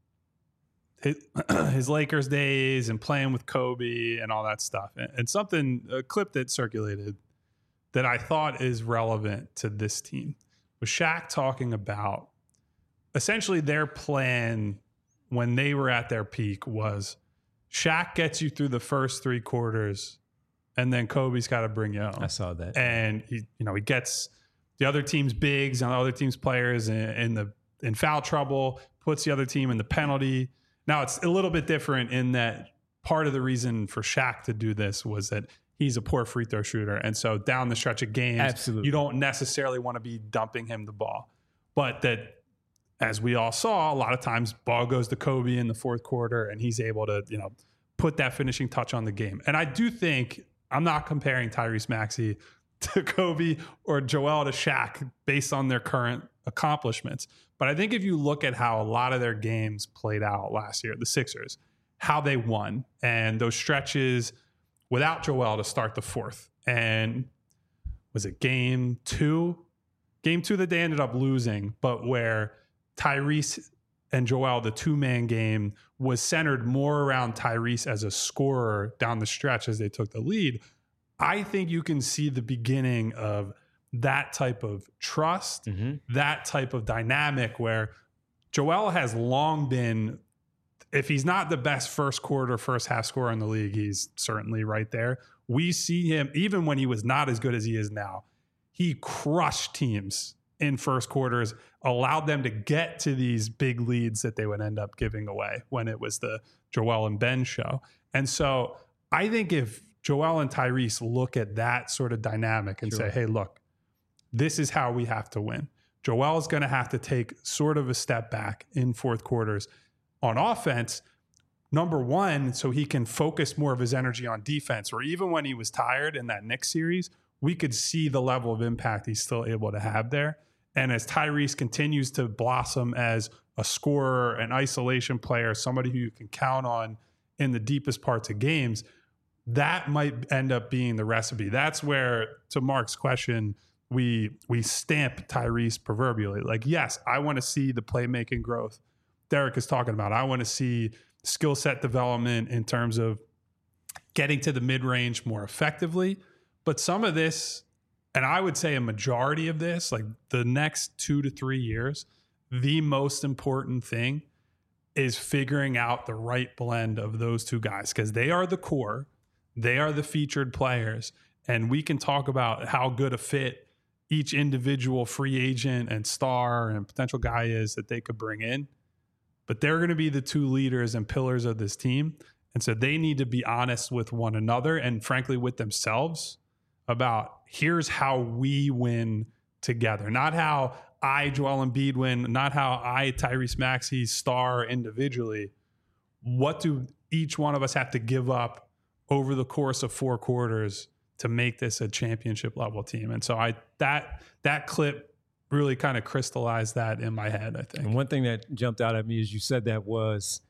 his, his Lakers days and playing with Kobe and all that stuff. And, and something, a clip that circulated that I thought is relevant to this team was Shaq talking about essentially their plan when they were at their peak was Shaq gets you through the first three quarters and then Kobe's got to bring you home. I saw that. And he, you know, he gets the other team's bigs and the other team's players in, in the in foul trouble, puts the other team in the penalty. Now it's a little bit different in that part of the reason for Shaq to do this was that he's a poor free throw shooter. And so down the stretch of games, Absolutely. you don't necessarily want to be dumping him the ball. But that, as we all saw, a lot of times ball goes to Kobe in the fourth quarter and he's able to, you know, put that finishing touch on the game. And I do think, I'm not comparing Tyrese Maxey to Kobe or Joel to Shaq based on their current accomplishments. But I think if you look at how a lot of their games played out last year, the Sixers, how they won and those stretches without Joel to start the fourth. And was it game two? Game two that they ended up losing, but where Tyrese and Joel, the two-man game, was centered more around Tyrese as a scorer down the stretch as they took the lead. I think you can see the beginning of that type of trust, mm-hmm. that type of dynamic where Joel has long been, if he's not the best first quarter, first half scorer in the league, he's certainly right there. We see him, even when he was not as good as he is now, he crushed teams in first quarters, allowed them to get to these big leads that they would end up giving away when it was the Joel and Ben show. And so I think if Joel and Tyrese look at that sort of dynamic and sure. say, hey, look, this is how we have to win. Joel is going to have to take sort of a step back in fourth quarters on offense, number one, so he can focus more of his energy on defense, or even when he was tired in that Knicks series, we could see the level of impact he's still able to have there. And as Tyrese continues to blossom as a scorer, an isolation player, somebody who you can count on in the deepest parts of games, that might end up being the recipe. That's where, to Mark's question, we we stamp Tyrese proverbially. Like, yes, I want to see the playmaking growth Derek is talking about. I want to see skill set development in terms of getting to the mid-range more effectively. But some of this, and I would say a majority of this, like the next two to three years, the most important thing is figuring out the right blend of those two guys, because they are the core. They are the featured players. And we can talk about how good a fit each individual free agent and star and potential guy is that they could bring in. But they're going to be the two leaders and pillars of this team. And so they need to be honest with one another and frankly with themselves about here's how we win together. Not how I, Joel Embiid, win, not how I, Tyrese Maxey, star individually. What do each one of us have to give up over the course of four quarters to make this a championship level team? And so I that that clip really kind of crystallized that in my head, I think. And one thing that jumped out at me as you said that was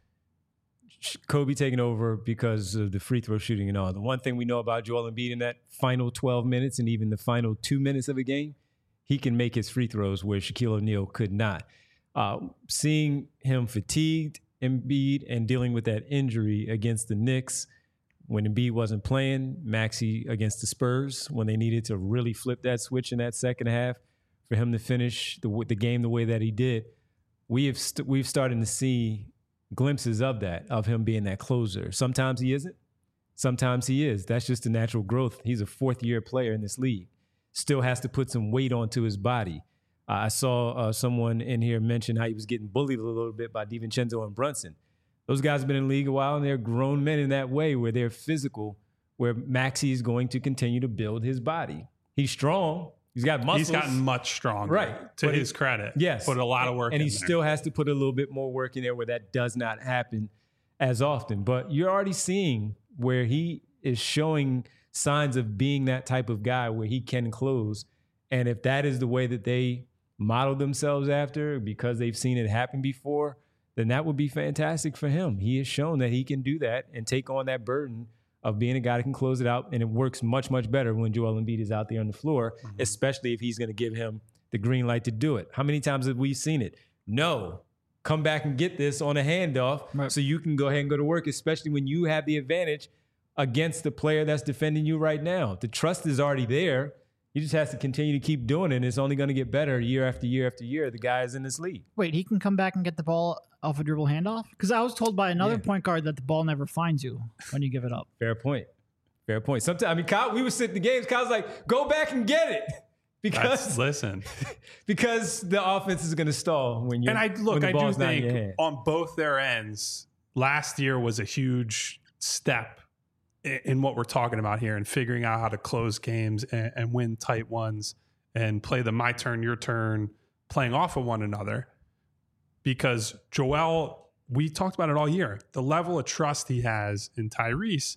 Kobe taking over because of the free throw shooting and all. The one thing we know about Joel Embiid in that final twelve minutes and even the final two minutes of a game, he can make his free throws where Shaquille O'Neal could not. Uh, seeing him fatigued, Embiid, and dealing with that injury against the Knicks when Embiid wasn't playing, Maxey against the Spurs when they needed to really flip that switch in that second half for him to finish the, the game the way that he did, we have st- we've started to see glimpses of that, of him being that closer. Sometimes he isn't. Sometimes he is. That's just the natural growth. He's a fourth-year player in this league. Still has to put some weight onto his body. Uh, I saw uh, someone in here mention how he was getting bullied a little bit by DiVincenzo and Brunson. Those guys have been in the league a while, and they're grown men in that way where they're physical, where Maxey is going to continue to build his body. He's strong. He's got muscles. He's gotten much stronger, right? To his he, credit. Yes. Put a lot of work and in he there. still has to put a little bit more work in there where that does not happen as often. But you're already seeing where he is showing signs of being that type of guy where he can close. And if that is the way that they model themselves after because they've seen it happen before, then that would be fantastic for him. He has shown that he can do that and take on that burden of being a guy that can close it out. And it works much, much better when Joel Embiid is out there on the floor, mm-hmm. especially if he's going to give him the green light to do it. How many times have we seen it? No, come back and get this on a handoff right. so you can go ahead and go to work, especially when you have the advantage against the player that's defending you right now. The trust is already there. He just has to continue to keep doing it, and it's only going to get better year after year after year. The guy is in this league. Wait, he can come back and get the ball off a dribble handoff? Because I was told by another yeah. point guard that the ball never finds you when you give it up. Fair point. Fair point. Sometimes, I mean, Kyle, we were sitting in the games. Kyle's like, go back and get it. Because That's, listen, because the offense is going to stall when you. And I look, I do think on both their ends, last year was a huge step in, in what we're talking about here and figuring out how to close games and, and win tight ones and play the my turn, your turn, playing off of one another. Because Joel, we talked about it all year. The level of trust he has in Tyrese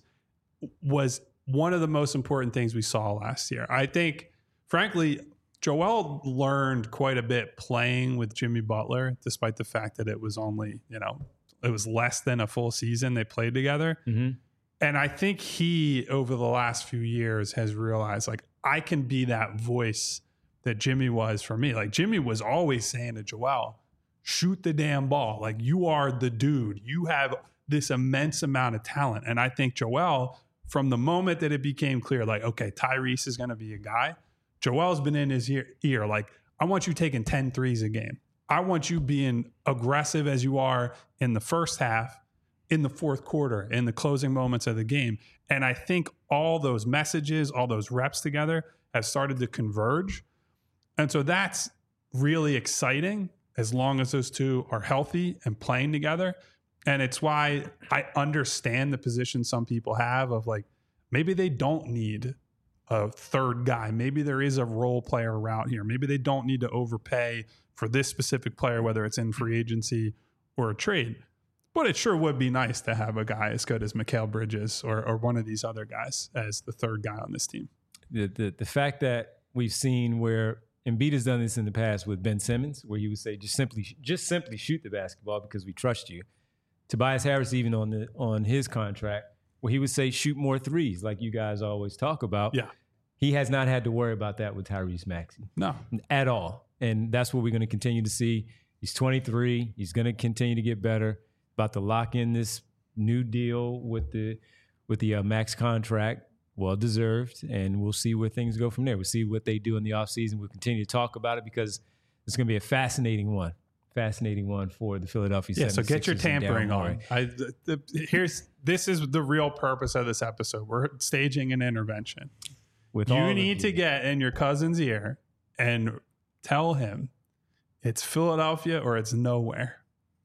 was one of the most important things we saw last year. I think. Frankly, Joel learned quite a bit playing with Jimmy Butler, despite the fact that it was only, you know, it was less than a full season they played together. Mm-hmm. And I think he, over the last few years, has realized, like, I can be that voice that Jimmy was for me. Like, Jimmy was always saying to Joel, shoot the damn ball. Like, you are the dude. You have this immense amount of talent. And I think Joel, from the moment that it became clear, like, okay, Tyrese is going to be a guy, Joel's been in his ear, ear, like, I want you taking ten threes a game. I want you being aggressive as you are in the first half, in the fourth quarter, in the closing moments of the game. And I think all those messages, all those reps together have started to converge. And so that's really exciting as long as those two are healthy and playing together. And it's why I understand the position some people have of, like, maybe they don't need a third guy. Maybe there is a role player route here. Maybe they don't need to overpay for this specific player, whether it's in free agency or a trade. But it sure would be nice to have a guy as good as Mikal Bridges or, or one of these other guys as the third guy on this team. The, the the fact that we've seen where Embiid has done this in the past with Ben Simmons, where he would say, just simply just simply shoot the basketball because we trust you. Tobias Harris, even on the on his contract, where he would say, shoot more threes, like you guys always talk about. Yeah. He has not had to worry about that with Tyrese Maxey. No. At all. And that's what we're going to continue to see. He's twenty-three. He's going to continue to get better. About to lock in this new deal with the with the uh, max contract. Well-deserved. And we'll see where things go from there. We'll see what they do in the offseason. We'll continue to talk about it because it's going to be a fascinating one. Fascinating one for the Philadelphia yeah, seventy-sixers. So get your tampering on. I, the, the, here's This is the real purpose of this episode. We're staging an intervention. With you need to get in your cousin's ear and tell him it's Philadelphia or it's nowhere.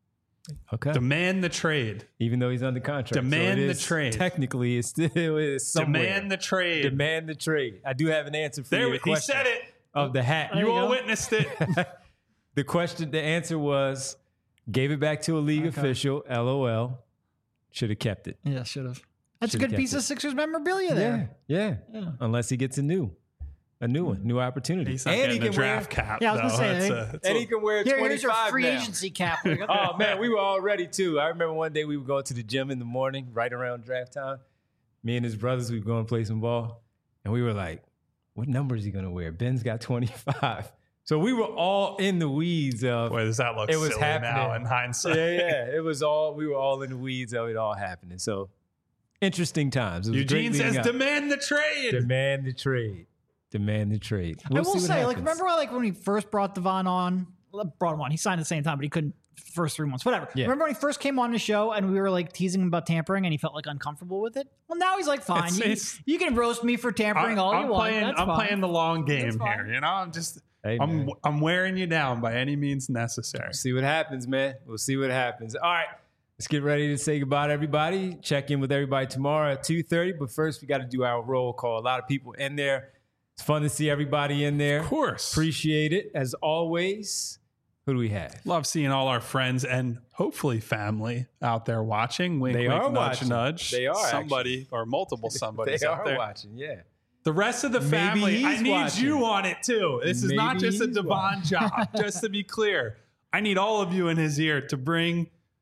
Okay. Demand the trade. Even though he's under contract. Demand so the trade. Technically, it's still is somewhere. Demand the trade. Demand the trade. I do have an answer for there, your he question. He said it. Of the hat. You, you all witnessed it. The question, the answer was, gave it back to a league okay. official, L O L. Should have kept it. Yeah, should have. That's Should've a good piece it. of Sixers memorabilia there. Yeah, yeah, yeah. Unless he gets a new, a new one, new opportunity. He's not and he can draft wear, cap. Yeah, I was though. gonna say, a, and a, he can wear here, twenty-five here's your free now. agency cap. Oh man, we were all ready too. I remember one day we would go to the gym in the morning, right around draft time. Me and his brothers, we would go and play some ball, and we were like, "What number is he gonna wear?" Ben's got twenty-five. So we were all in the weeds of. Boy, does that look it was silly happening. now in hindsight? Yeah, yeah. It was all. We were all in the weeds of it all happening. So. Interesting times. It was Eugene says, up. "Demand the trade. Demand the trade. Demand the trade." We'll I will say, happens. like, remember, like when we first brought Devon on, brought him on. He signed at the same time, but he couldn't first three months. Whatever. Yeah. Remember when he first came on the show and we were like teasing him about tampering, and he felt like uncomfortable with it. Well, now he's like, "Fine, it's, you, it's, you can roast me for tampering I'm, all I'm you playing, want." That's I'm fine. playing the long game here. You know, I'm just. Hey, I'm I'm wearing you down by any means necessary. We'll see what happens, man. We'll see what happens. All right. Let's get ready to say goodbye to everybody. Check in with everybody tomorrow at two thirty. But first, we got to do our roll call. A lot of people in there. It's fun to see everybody in there. Of course. Appreciate it. As always, who do we have? Love seeing all our friends and hopefully family out there watching. Wink, they wink, are nudge, watching. nudge. They are Somebody actually. Or multiple somebodies they out are there. watching, yeah. The rest of the family, I need watching. you on it too. This is Maybe not just a Devon watching. job, just to be clear. I need all of you in his ear to bring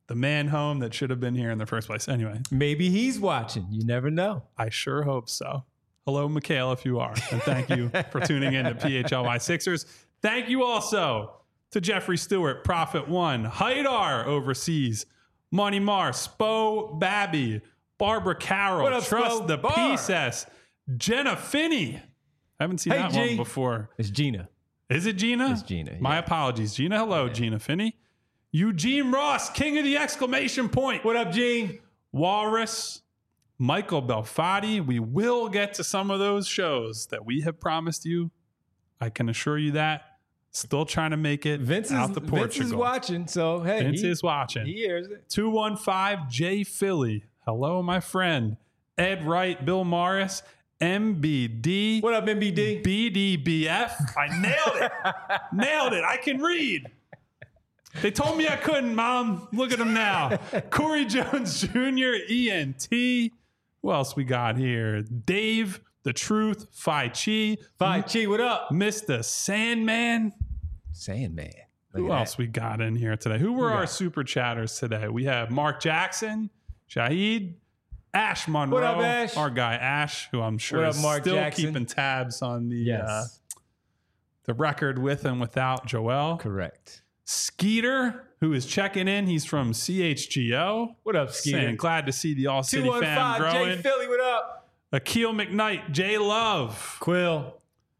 the man home that should have been here in the first place. Anyway, Maybe he's watching. You never know. I sure hope so. Hello, Mikhail, if you are. And thank you for tuning in to P H L Y Sixers. Thank you also to Jeffrey Stewart, Prophet One, Haidar overseas, Money Mar, Spo Babby, Barbara Carroll, What up, Trust Spo? the Bar. P-Cess, Jenna Finney. I haven't seen Hey, that G. one before. It's Gina. Is it Gina? It's Gina, My yeah. apologies. Gina, hello, Gina Finney. Eugene Ross, king of the exclamation point. What up, Gene? Walrus, Michael Belfatti. We will get to some of those shows that we have promised you. I can assure you that. Still trying to make it Vince is, out to Portugal. Vince is watching, so hey. Vince he, is watching. He hears it. two one five J Philly. Hello, my friend. Ed Wright, Bill Morris, M B D. What up, M B D? B D B F. I nailed it. Nailed it. I can read. They told me I couldn't, Mom. Look at them now. Corey Jones Junior, E N T. Who else we got here? Dave, The Truth, Phi Chi. Phi Chi, what up? Mister Sandman. Sandman. Look Who at else that. we got in here today? Who were Who our got? super chatters today? We have Mark Jackson, Shahid, Ash Monroe. What up, Ash? Our guy Ash, who I'm sure What up, is Mark still Jackson? keeping tabs on the Yes. uh, the record with and without Joel. Correct. Skeeter, who is checking in. He's from C H G O. What up, Skeeter? Saying glad to see the All City fam two one five growing. J Philly, what up? Akil McKnight, J Love. Quill.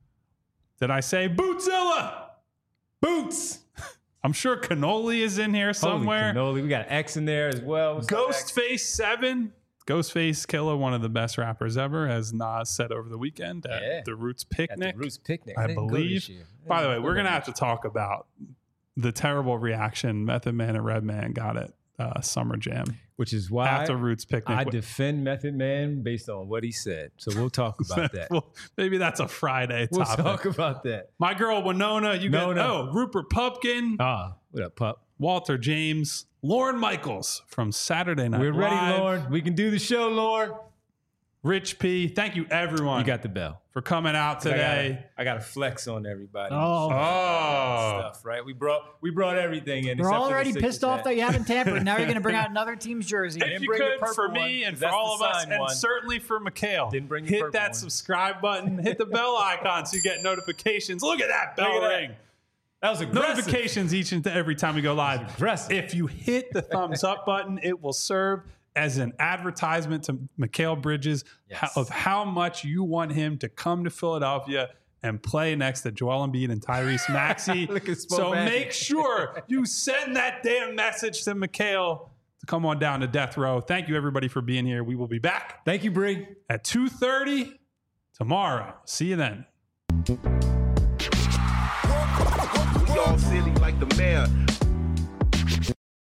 Did I say Bootzilla? Boots. I'm sure Cannoli is in here somewhere. Holy cannoli. We got X in there as well. What's up, X? Ghostface seven. Ghostface Killer, one of the best rappers ever, as Nas said over the weekend at Yeah. the Roots At Picnic. the Roots Picnic. I didn't go this believe. year. I By the way, didn't we're go going to this have to talk about the terrible reaction Method Man and Redman got at uh, Summer Jam Which is why after Roots Picnic. I defend Method Man based on what he said. So we'll talk about that. Well, maybe that's a Friday We'll topic. talk about that. My girl Winona, you got Nona. oh Rupert Pupkin, Ah, what up, pup? Walter James, Lauren Michaels from Saturday Night We're ready, Live, Lauren. We can do the show, Lauren. Rich P. Thank you everyone You got the bell. for coming out today. I got to flex on everybody. Oh. Oh, Stuff, right? We brought we brought everything in. We're except for the already Sixers pissed off hat. that you haven't tampered. Now you're going to bring out another team's jersey. if didn't you bring the could, purple for me one, and 'cause for that's all the of us, signed and one. certainly for Mikhail, Didn't bring the hit purple that one. subscribe button, hit the bell icon so you get notifications. Look at that bell Look at that. ring. That was aggressive. Notifications each and every time we go live. aggressive. If you hit the thumbs up button, it will serve as an advertisement to Mikhail Bridges Yes. how- of how much you want him to come to Philadelphia and play next to Joel Embiid and Tyrese Maxey. Look at Spo So Baggy. make sure you send that damn message to Mikhail to come on down to Death Row. Thank you, everybody, for being here. We will be back Thank you, Bree. at two thirty tomorrow. See you then. We all silly like the mayor.